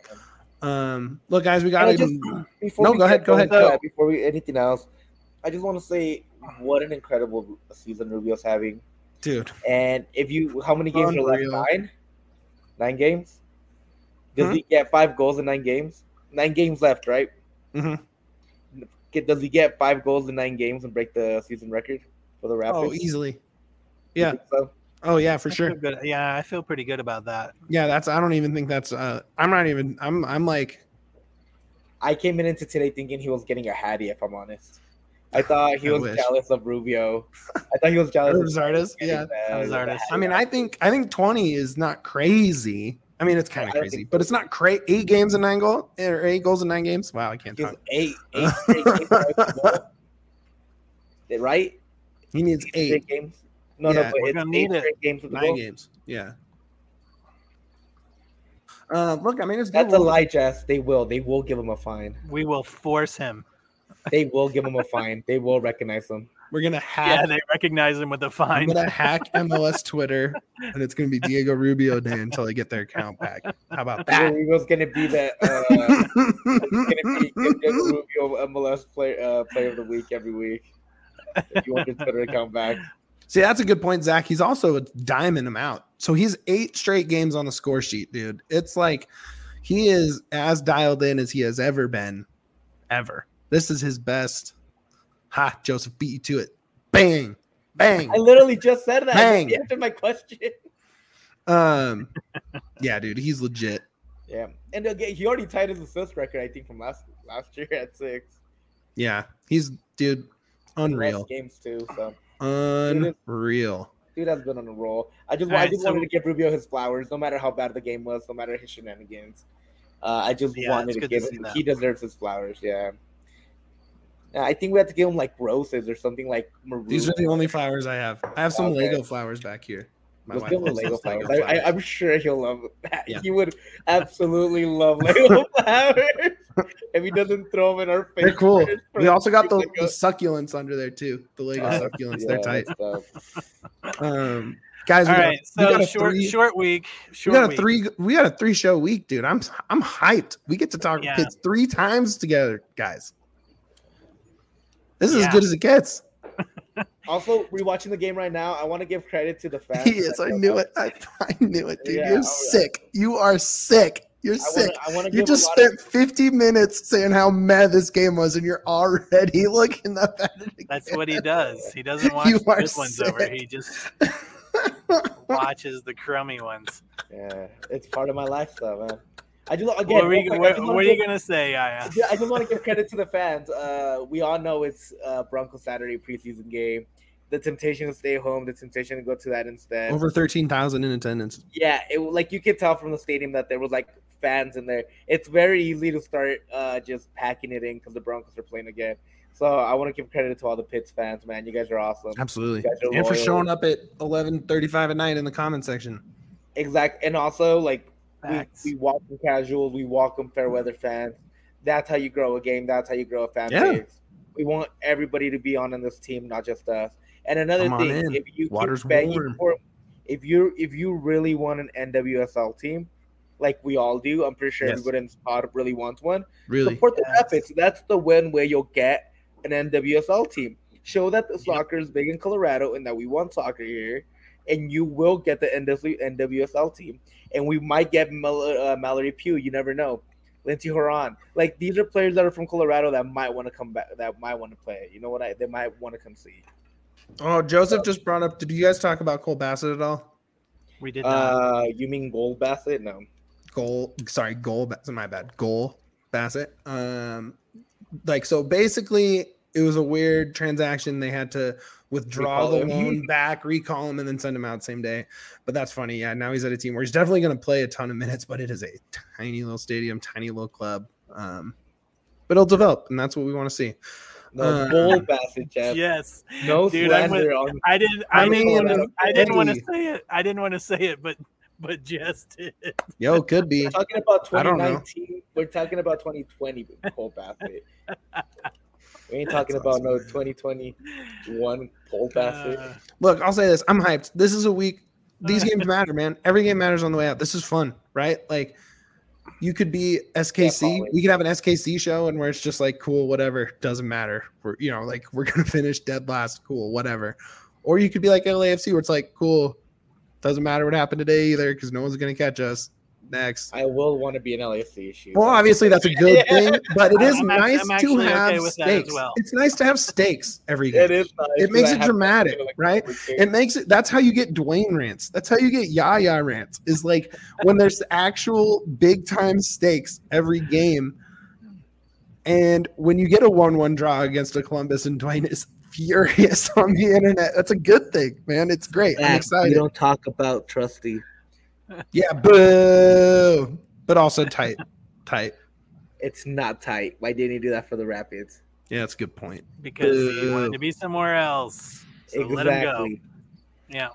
Speaker 3: Um, look, guys, we got
Speaker 1: And I
Speaker 3: to.
Speaker 1: just- Before
Speaker 3: No,
Speaker 1: we
Speaker 3: go
Speaker 1: get
Speaker 3: ahead, go
Speaker 1: going
Speaker 3: ahead,
Speaker 1: to
Speaker 3: go.
Speaker 1: that, Before we anything else, I just want to say what an incredible season Rubio's having.
Speaker 3: Dude,
Speaker 1: And if you, how many games
Speaker 3: Unreal.
Speaker 1: are left? Nine. Nine games. Does
Speaker 3: Hmm?
Speaker 1: he get five goals in nine games? Nine games left, right?
Speaker 3: Mhm.
Speaker 1: Get, does he get five goals in nine games and break the season record for the Rapids?
Speaker 3: oh, easily.
Speaker 1: You
Speaker 3: Yeah.
Speaker 1: think so?
Speaker 3: Oh yeah, for
Speaker 2: I
Speaker 3: sure.
Speaker 2: feel good. Yeah, I feel pretty good about that.
Speaker 3: Yeah, that's. I don't even think that's. Uh, I'm not even. I'm. I'm like.
Speaker 1: I came in into today thinking he was getting a Hattie, if I'm honest. I thought he
Speaker 3: I
Speaker 1: was
Speaker 3: wish.
Speaker 1: jealous of Rubio. I thought he was jealous of
Speaker 3: Zardes. Yeah.
Speaker 2: Zardes.
Speaker 3: I mean, I think. I think twenty is not crazy. I mean, it's kind
Speaker 1: I
Speaker 3: of
Speaker 1: don't
Speaker 3: crazy,
Speaker 1: think
Speaker 3: but it's not crazy. Eight games in nine goal or eight goals in nine games. Wow, I can't
Speaker 1: He was
Speaker 3: talk.
Speaker 1: eight, eight straight games. Right? Right?
Speaker 3: He needs
Speaker 1: Eight
Speaker 3: eight,
Speaker 1: straight games. No,
Speaker 3: Yeah.
Speaker 1: no, but
Speaker 2: We're
Speaker 1: it's
Speaker 2: gonna
Speaker 1: eight
Speaker 2: need it.
Speaker 1: straight games with the
Speaker 3: nine
Speaker 1: goal.
Speaker 3: games. Yeah. Uh, look, I mean, it's good.
Speaker 1: That's a
Speaker 3: We'll-
Speaker 1: lie, Jess. They will. They will give him a fine.
Speaker 2: We will force him.
Speaker 1: They will give him a fine. They will recognize him.
Speaker 3: We're gonna
Speaker 2: Yeah,
Speaker 3: hack.
Speaker 2: they recognize him with a
Speaker 3: I'm
Speaker 2: fine.
Speaker 3: gonna hack M L S Twitter, and it's gonna be Diego Rubio Day until they get their account back. How about that?
Speaker 1: Rubio's gonna be the uh, gonna be the Rubio M L S player uh, player of the week every week. If you want your Twitter account back.
Speaker 3: See, that's a good point, Zach. He's also a diamond him out. So he's eight straight games on the score sheet, dude. It's like he is as dialed in as he has ever been, ever. This is his best. Ha, Joseph beat you to it. Bang, bang.
Speaker 1: I literally just said that.
Speaker 3: Bang.
Speaker 1: He answered my question.
Speaker 3: Um, yeah, dude, he's legit.
Speaker 1: Yeah, and again, he already tied his assist record, I think, from last last year at six.
Speaker 3: Yeah, he's dude, unreal,
Speaker 1: Last games too. So
Speaker 3: unreal.
Speaker 1: dude has been on a roll. I just
Speaker 2: All
Speaker 1: I
Speaker 2: right,
Speaker 1: just
Speaker 2: so-
Speaker 1: wanted to give Rubio his flowers, no matter how bad the game was, no matter his shenanigans. Uh, I just
Speaker 2: Yeah,
Speaker 1: wanted
Speaker 2: it's
Speaker 1: to
Speaker 2: good to
Speaker 1: give
Speaker 2: see
Speaker 1: him.
Speaker 2: that.
Speaker 1: He deserves his flowers. Yeah. Yeah, I think we have to give him like roses or something like maroon.
Speaker 3: These are the only flowers I have. I have some
Speaker 1: Okay.
Speaker 3: Lego flowers back here. My
Speaker 1: Let's
Speaker 3: wife
Speaker 1: give him the
Speaker 3: loves
Speaker 1: Lego
Speaker 3: those
Speaker 1: flowers.
Speaker 3: Lego
Speaker 1: I, I, I'm sure he'll love that.
Speaker 3: Yeah.
Speaker 1: He would absolutely love Lego flowers if he doesn't throw them in our face.
Speaker 3: They're cool.
Speaker 1: first for
Speaker 3: We also got the,
Speaker 1: weeks
Speaker 3: the
Speaker 1: ago.
Speaker 3: succulents under there too. The Lego
Speaker 1: Uh,
Speaker 3: succulents,
Speaker 1: yeah,
Speaker 3: they're tight.
Speaker 1: so-
Speaker 3: Um, guys,
Speaker 2: All
Speaker 3: we got,
Speaker 2: right,
Speaker 3: we
Speaker 2: so
Speaker 3: got a
Speaker 2: short
Speaker 3: three,
Speaker 2: short week.
Speaker 3: we
Speaker 2: Short
Speaker 3: got a
Speaker 2: week.
Speaker 3: three, we got a three show week, dude. I'm I'm hyped. We get to talk
Speaker 2: Yeah.
Speaker 3: kids three times together, guys. This is
Speaker 2: Yeah.
Speaker 3: as good as it gets.
Speaker 1: Also, rewatching the game right now, I want to give credit to the fans.
Speaker 3: He is.
Speaker 1: that
Speaker 3: I
Speaker 1: showed
Speaker 3: knew
Speaker 1: up.
Speaker 3: it. I, I knew it, dude.
Speaker 1: Yeah,
Speaker 3: You're
Speaker 1: oh, yeah.
Speaker 3: sick. You are sick. You're
Speaker 1: I
Speaker 3: sick.
Speaker 1: wanna, I want to
Speaker 3: You
Speaker 1: give
Speaker 3: just
Speaker 1: a lot
Speaker 3: spent fifty minutes saying how mad this game was, and you're already looking up at it.
Speaker 2: That's
Speaker 3: again.
Speaker 2: what he does. He doesn't watch
Speaker 3: You
Speaker 2: the
Speaker 3: are
Speaker 2: good ones over.
Speaker 3: sick.
Speaker 2: He just watches the crummy ones.
Speaker 1: of, yeah, it's part of my lifestyle, man. I just again.
Speaker 2: What, are we,
Speaker 1: real quick, I
Speaker 2: what,
Speaker 1: just wanna
Speaker 2: what are you
Speaker 1: give-
Speaker 2: gonna say, Yaya?
Speaker 1: Yeah, I just want to give credit to the fans. Uh, we all know it's uh, Bronco Saturday preseason game. The temptation to stay home, the temptation to go to that instead.
Speaker 3: Over thirteen thousand in attendance.
Speaker 1: Yeah, it like you could tell from the stadium that there was like fans in there. It's very easy to start uh, just packing it in because the Broncos are playing again. So I want to give credit to all the Pitts fans, man. You guys are awesome.
Speaker 3: Absolutely.
Speaker 1: You guys are
Speaker 3: And for
Speaker 1: loyal.
Speaker 3: showing up at eleven thirty-five at night in the comment section.
Speaker 1: Exact, and also like we,
Speaker 2: Facts.
Speaker 1: we welcome casuals, we welcome fair weather fans. That's how you grow a game. That's how you grow a fan
Speaker 3: Yeah.
Speaker 1: base. We want everybody to be on in this team, not just us. And another
Speaker 3: Come on
Speaker 1: thing,
Speaker 3: in.
Speaker 1: if you
Speaker 3: Water's
Speaker 1: keep begging
Speaker 3: warm.
Speaker 1: for, if you if you really want an N W S L team, like we all do, I'm pretty sure
Speaker 3: Yes.
Speaker 1: everybody in the pod really wants one.
Speaker 3: Really?
Speaker 1: Support the
Speaker 2: Yes.
Speaker 1: Rapids. That's the win where you'll get an N W S L team. Show that the soccer is big in Colorado and that we want soccer here, and you will get the N W S L team. And we might get Mal- uh, Mallory Pugh. You never know. Lindsey Horan. Like, these are players that are from Colorado that might want to come back, that might want to play. You know what? I They might want to come see.
Speaker 3: Oh, Joseph just brought up. Did you guys talk about Cole Bassett at all?
Speaker 2: We did not.
Speaker 1: Uh, you mean Gold Bassett? No.
Speaker 3: Goal. Sorry, goal. Bassett. My bad. Goal Bassett. Um, like so. Basically, it was a weird transaction. They had to withdraw
Speaker 1: Recall
Speaker 3: the
Speaker 1: him.
Speaker 3: loan back, recall him, and then send him out same day. But that's funny. Yeah, now he's at a team where he's definitely going to play a ton of minutes, but it is a tiny little stadium, tiny little club. Um, but it'll develop, and that's what we want to see.
Speaker 1: No,
Speaker 3: Uh,
Speaker 1: Gold Bassett, Jeff.
Speaker 2: Yes.
Speaker 1: No
Speaker 2: Dude, I'm with-
Speaker 1: slander on.
Speaker 2: I didn't. I,
Speaker 3: I
Speaker 2: didn't
Speaker 3: mean,
Speaker 2: want to. I didn't want to
Speaker 3: hey.
Speaker 2: say it. I didn't want to say it, but but just did.
Speaker 3: Yo, could be.
Speaker 1: We're talking about
Speaker 3: I don't
Speaker 1: twenty
Speaker 3: know.
Speaker 1: nineteen. We're talking about twenty twenty with Cole Bassett. We ain't talking
Speaker 3: That's
Speaker 1: about
Speaker 3: awesome.
Speaker 1: no twenty twenty-one Cole Bassett.
Speaker 2: Uh,
Speaker 3: Look, I'll say this. I'm hyped. This is a week. These games matter, man. Every game matters on the way out. This is fun, right? Like, you could be S K C.
Speaker 1: Definitely.
Speaker 3: We could have an S K C show, and where it's just like, cool, whatever, doesn't matter. We're, you know, like we're gonna finish dead last, cool, whatever. Or you could be like L A F C, where it's like, cool, doesn't matter what happened today either, because no one's gonna catch us. Next.
Speaker 1: I will want to be an L A F C issue.
Speaker 3: Well, obviously that's a good thing, but it is
Speaker 2: I'm act-
Speaker 3: nice
Speaker 2: I'm
Speaker 3: to
Speaker 2: actually
Speaker 3: have
Speaker 2: okay with that as
Speaker 3: stakes.
Speaker 2: well.
Speaker 3: It's nice to have stakes every game.
Speaker 1: It is nice.
Speaker 3: It makes
Speaker 1: I
Speaker 3: it
Speaker 1: have-
Speaker 3: dramatic,
Speaker 1: like,
Speaker 3: right?
Speaker 1: over two.
Speaker 3: It makes it. That's how you get Dwayne rants. That's how you get Yaya rants. Is like when there's actual big time stakes every game, and when you get a one-one draw against a Columbus, and Dwayne is furious on the internet. That's a good thing, man. It's great. I'm
Speaker 1: Zach,
Speaker 3: excited.
Speaker 1: You don't talk about Trusty.
Speaker 3: Yeah, boo. But also tight, tight.
Speaker 1: It's not tight. Why didn't he do that for the Rapids?
Speaker 3: Yeah, that's a good point.
Speaker 2: because he
Speaker 3: Boo.
Speaker 2: wanted to be somewhere else. So let him go.
Speaker 1: exactly.
Speaker 2: Yeah.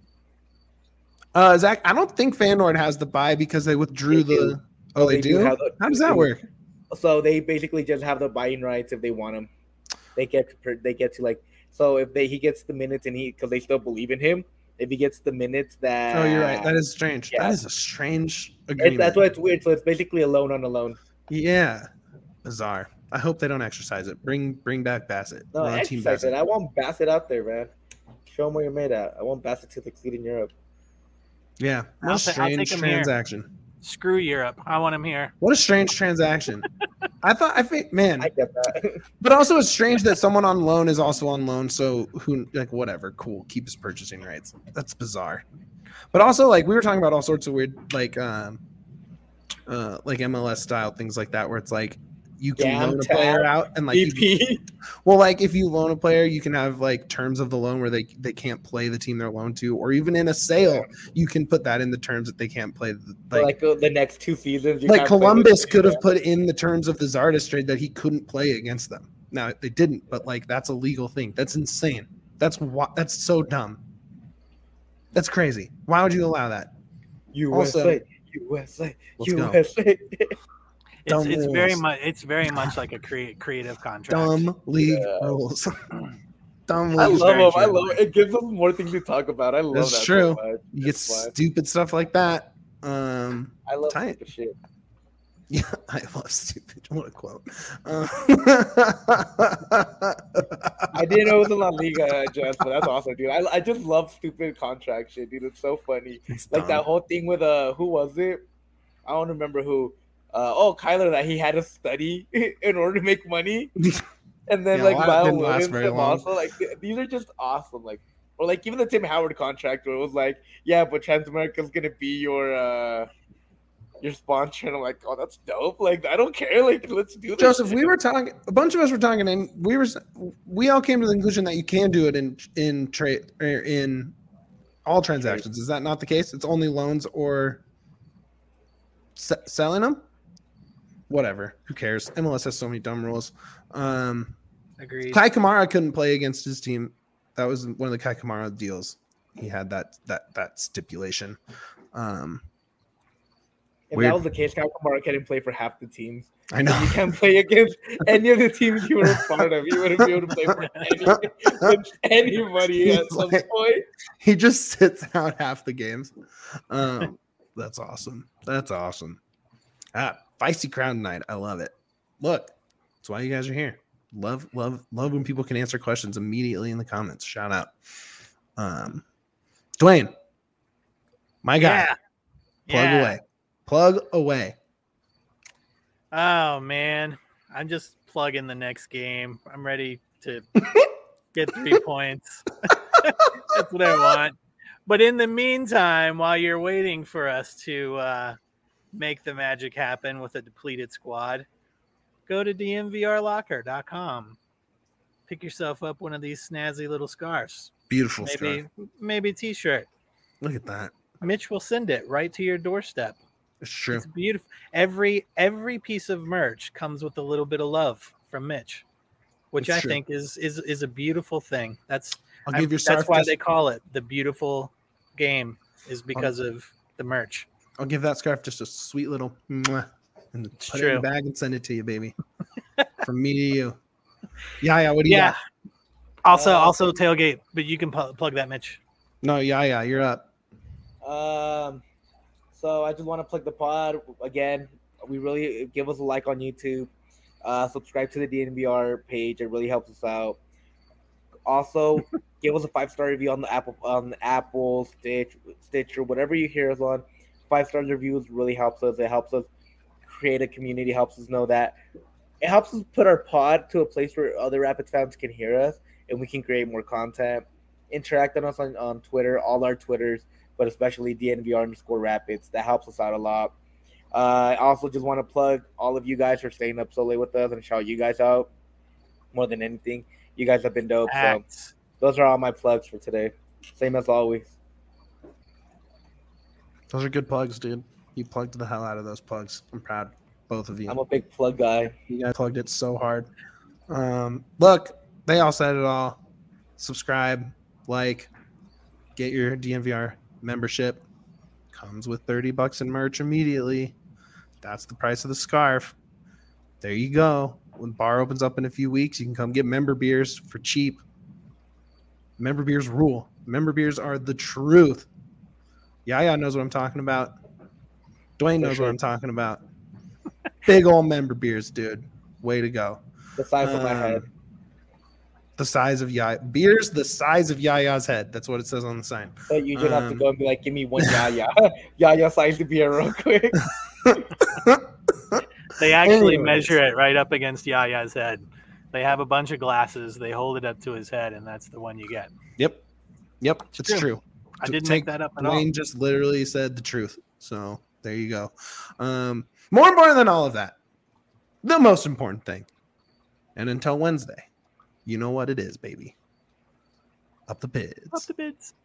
Speaker 3: Uh, Zach, I don't think Fandor has the buy because they withdrew
Speaker 1: They
Speaker 3: the.
Speaker 1: do.
Speaker 3: Oh, they,
Speaker 1: They
Speaker 3: do.
Speaker 1: do have the-
Speaker 3: How does
Speaker 1: they
Speaker 3: that
Speaker 1: do.
Speaker 3: work?
Speaker 1: So they basically just have the buying rights if they want him. They get to, per- they get to like so if they he gets the minutes and he because they still believe in him. If he gets the minutes that
Speaker 3: Oh, you're right. That is strange.
Speaker 1: yeah.
Speaker 3: That is a strange
Speaker 1: it,
Speaker 3: agreement.
Speaker 1: that's why it's weird. So it's basically a loan on a loan.
Speaker 3: Yeah, bizarre. I hope they don't exercise it. Bring bring back Bassett.
Speaker 1: No,
Speaker 3: We're on Team
Speaker 1: exercise
Speaker 3: Bassett.
Speaker 1: it. I want Bassett out there, man. Show him what you're made at. I want Bassett to succeed in Europe.
Speaker 3: Yeah, what
Speaker 2: I'll
Speaker 3: a
Speaker 2: ta- I'll
Speaker 3: strange
Speaker 2: take him here.
Speaker 3: transaction.
Speaker 2: Screw Europe. I want him here.
Speaker 3: What a strange transaction. I thought I think man,
Speaker 1: I get that.
Speaker 3: but also it's strange that someone on loan is also on loan. So who like whatever, cool, keep his purchasing rights. That's bizarre. But also like we were talking about all sorts of weird like um uh like M L S style things like that where it's like you can
Speaker 1: Damn
Speaker 3: loan a
Speaker 1: tab.
Speaker 3: player out and like you-
Speaker 1: E P.
Speaker 3: well like if you loan a player you can have like terms of the loan where they they can't play the team they're loaned to, or even in a sale you can put that in the terms that they can't play the,
Speaker 1: like,
Speaker 3: like
Speaker 1: uh, the next two seasons. you
Speaker 3: like
Speaker 1: can't play
Speaker 3: Columbus
Speaker 1: with-
Speaker 3: could have put in the terms of the Zardes trade that he couldn't play against them. Now they didn't, but like that's a legal thing. That's insane. That's why that's so dumb. That's crazy. Why would you allow that?
Speaker 1: U S A,
Speaker 3: Also-
Speaker 1: U S A,
Speaker 3: Let's go.
Speaker 1: U S A.
Speaker 2: It's,
Speaker 3: Dumb
Speaker 2: it's very
Speaker 3: rules.
Speaker 2: much it's very much like a crea- creative contract.
Speaker 3: Dumb league
Speaker 1: Yeah.
Speaker 3: rules. Dumb
Speaker 1: I
Speaker 3: league.
Speaker 1: love
Speaker 2: very
Speaker 1: him. I
Speaker 2: true.
Speaker 1: love it. It gives us more things to talk about. I love
Speaker 3: That's
Speaker 1: that.
Speaker 3: true.
Speaker 1: So much.
Speaker 3: You get
Speaker 1: It's fun.
Speaker 3: stupid stuff like that. Um,
Speaker 1: I love
Speaker 3: tight.
Speaker 1: stupid shit.
Speaker 3: yeah, I love stupid. What a quote. Uh,
Speaker 1: I didn't know it was in La Liga, Jess, but that's awesome, dude. I, I just love stupid contract shit, dude. It's so funny.
Speaker 3: It's
Speaker 1: Like
Speaker 3: dumb.
Speaker 1: that whole thing with uh, who was it? I don't remember who. Uh, oh, Kyler, that he had to study in order to make money, and then
Speaker 3: Yeah,
Speaker 1: like
Speaker 3: well, that
Speaker 1: Lyle
Speaker 3: didn't last
Speaker 1: Williams
Speaker 3: very
Speaker 1: him
Speaker 3: long.
Speaker 1: also like th- these are just awesome. Like or like even the Tim Howard contract where it was like, yeah, but Transamerica's gonna be your uh your sponsor, and I'm like, oh, that's dope. Like I don't care. Like let's do this.
Speaker 3: Joseph,
Speaker 1: shit.
Speaker 3: we were talking. A bunch of us were talking, and we were we all came to the conclusion that you can do it in in trade or in all transactions. Is that not the case? It's only loans or se- selling them. Whatever. Who cares? M L S has so many dumb rules. Um,
Speaker 2: Agreed.
Speaker 3: Kai Kamara couldn't play against his team. That was one of the Kai Kamara deals. He had that that that stipulation. Um,
Speaker 1: If
Speaker 3: Weird.
Speaker 1: that was the case, Kawamura couldn't play for half the teams.
Speaker 3: I know.
Speaker 1: You can't play against any of the teams you were a part of. You wouldn't be able to play for any, against anybody
Speaker 3: He's
Speaker 1: at some
Speaker 3: like-
Speaker 1: point.
Speaker 3: He just sits out half the games. Um, that's awesome. That's awesome. Ah, feisty crowd tonight. I love it. Look, that's why you guys are here. Love, love, love when people can answer questions immediately in the comments. Shout out. Um, Dwayne, my guy.
Speaker 2: Yeah.
Speaker 3: Plug
Speaker 2: Yeah.
Speaker 3: away. Plug away.
Speaker 2: Oh man, I'm just plugging the next game. I'm ready to get three points. That's what I want. But in the meantime, while you're waiting for us to uh, make the magic happen with a depleted squad, go to d m v r locker dot com. Pick yourself up one of these snazzy little scarves.
Speaker 3: Beautiful
Speaker 2: Maybe,
Speaker 3: stuff.
Speaker 2: maybe a t-shirt.
Speaker 3: Look at that.
Speaker 2: Mitch will send it right to your doorstep.
Speaker 3: It's true.
Speaker 2: It's beautiful. Every every piece of merch comes with a little bit of love from Mitch, which
Speaker 3: It's
Speaker 2: I
Speaker 3: true.
Speaker 2: think is is is a beautiful thing. That's
Speaker 3: I'll
Speaker 2: I-
Speaker 3: give your
Speaker 2: that's
Speaker 3: scarf
Speaker 2: why
Speaker 3: just-
Speaker 2: they call it the beautiful game, is because of the merch.
Speaker 3: I'll give that scarf just a sweet little mwah, and
Speaker 2: It's
Speaker 3: put it in
Speaker 2: true.
Speaker 3: the bag and send it to you, baby. From me to you. Yeah, yeah. What do you
Speaker 2: Yeah.
Speaker 3: got?
Speaker 2: Also,
Speaker 1: Uh,
Speaker 2: also tailgate, but you can pu- plug that, Mitch.
Speaker 3: No, yeah, yeah. You're up.
Speaker 1: Um, so I just want to plug the pod again. We really give us a like on YouTube. Uh, subscribe to the D N V R page. It really helps us out. Also, give us a five star review on the Apple, on the Apple, Stitch, Stitcher, whatever you hear us on. Five star reviews really helps us. It helps us create a community. Helps us know that it helps us put our pod to a place where other Rapids fans can hear us and we can create more content. Interact on us on, on Twitter, all our Twitters, but especially D N V R underscore Rapids. That helps us out a lot. Uh, I also just want to plug all of you guys for staying up so late with us and shout you guys out more than anything. You guys have been dope. So
Speaker 2: Acts.
Speaker 1: those are all my plugs for today. Same as always.
Speaker 3: Those are good plugs, dude. You plugged the hell out of those plugs. I'm proud, both of you.
Speaker 1: I'm a big plug guy.
Speaker 3: You guys plugged it so hard. Um, look, they all said it all. Subscribe, like, get your D N V R membership. Comes with thirty bucks in merch immediately. That's the price of the scarf. There you go. When bar opens up in a few weeks, you can come get member beers for cheap. Member beers rule. Member beers are the truth. Yaya knows what I'm talking about. Dwayne
Speaker 1: For
Speaker 3: knows
Speaker 1: sure.
Speaker 3: what I'm talking about. Big old member beers, dude. Way to go.
Speaker 1: The size of my
Speaker 3: Um,
Speaker 1: head.
Speaker 3: The size of Yaya. Beers the size of Yaya's head. That's what it says on the sign.
Speaker 1: So you just have to
Speaker 3: um,
Speaker 1: go and be like, give me one Yaya. Yaya size to beer real quick.
Speaker 2: They actually
Speaker 3: Anyways.
Speaker 2: measure it right up against Yaya's head. They have a bunch of glasses. They hold it up to his head, and that's the one you get.
Speaker 3: Yep. Yep. It's
Speaker 2: true.
Speaker 3: true.
Speaker 2: I
Speaker 3: To
Speaker 2: didn't
Speaker 3: take-
Speaker 2: make that up at all.
Speaker 3: Dwayne just literally said the truth. So there you go. Um, more important than all of that, the most important thing. And until Wednesday, you know what it is, baby. Up the
Speaker 2: Up
Speaker 3: pids.
Speaker 2: the bids.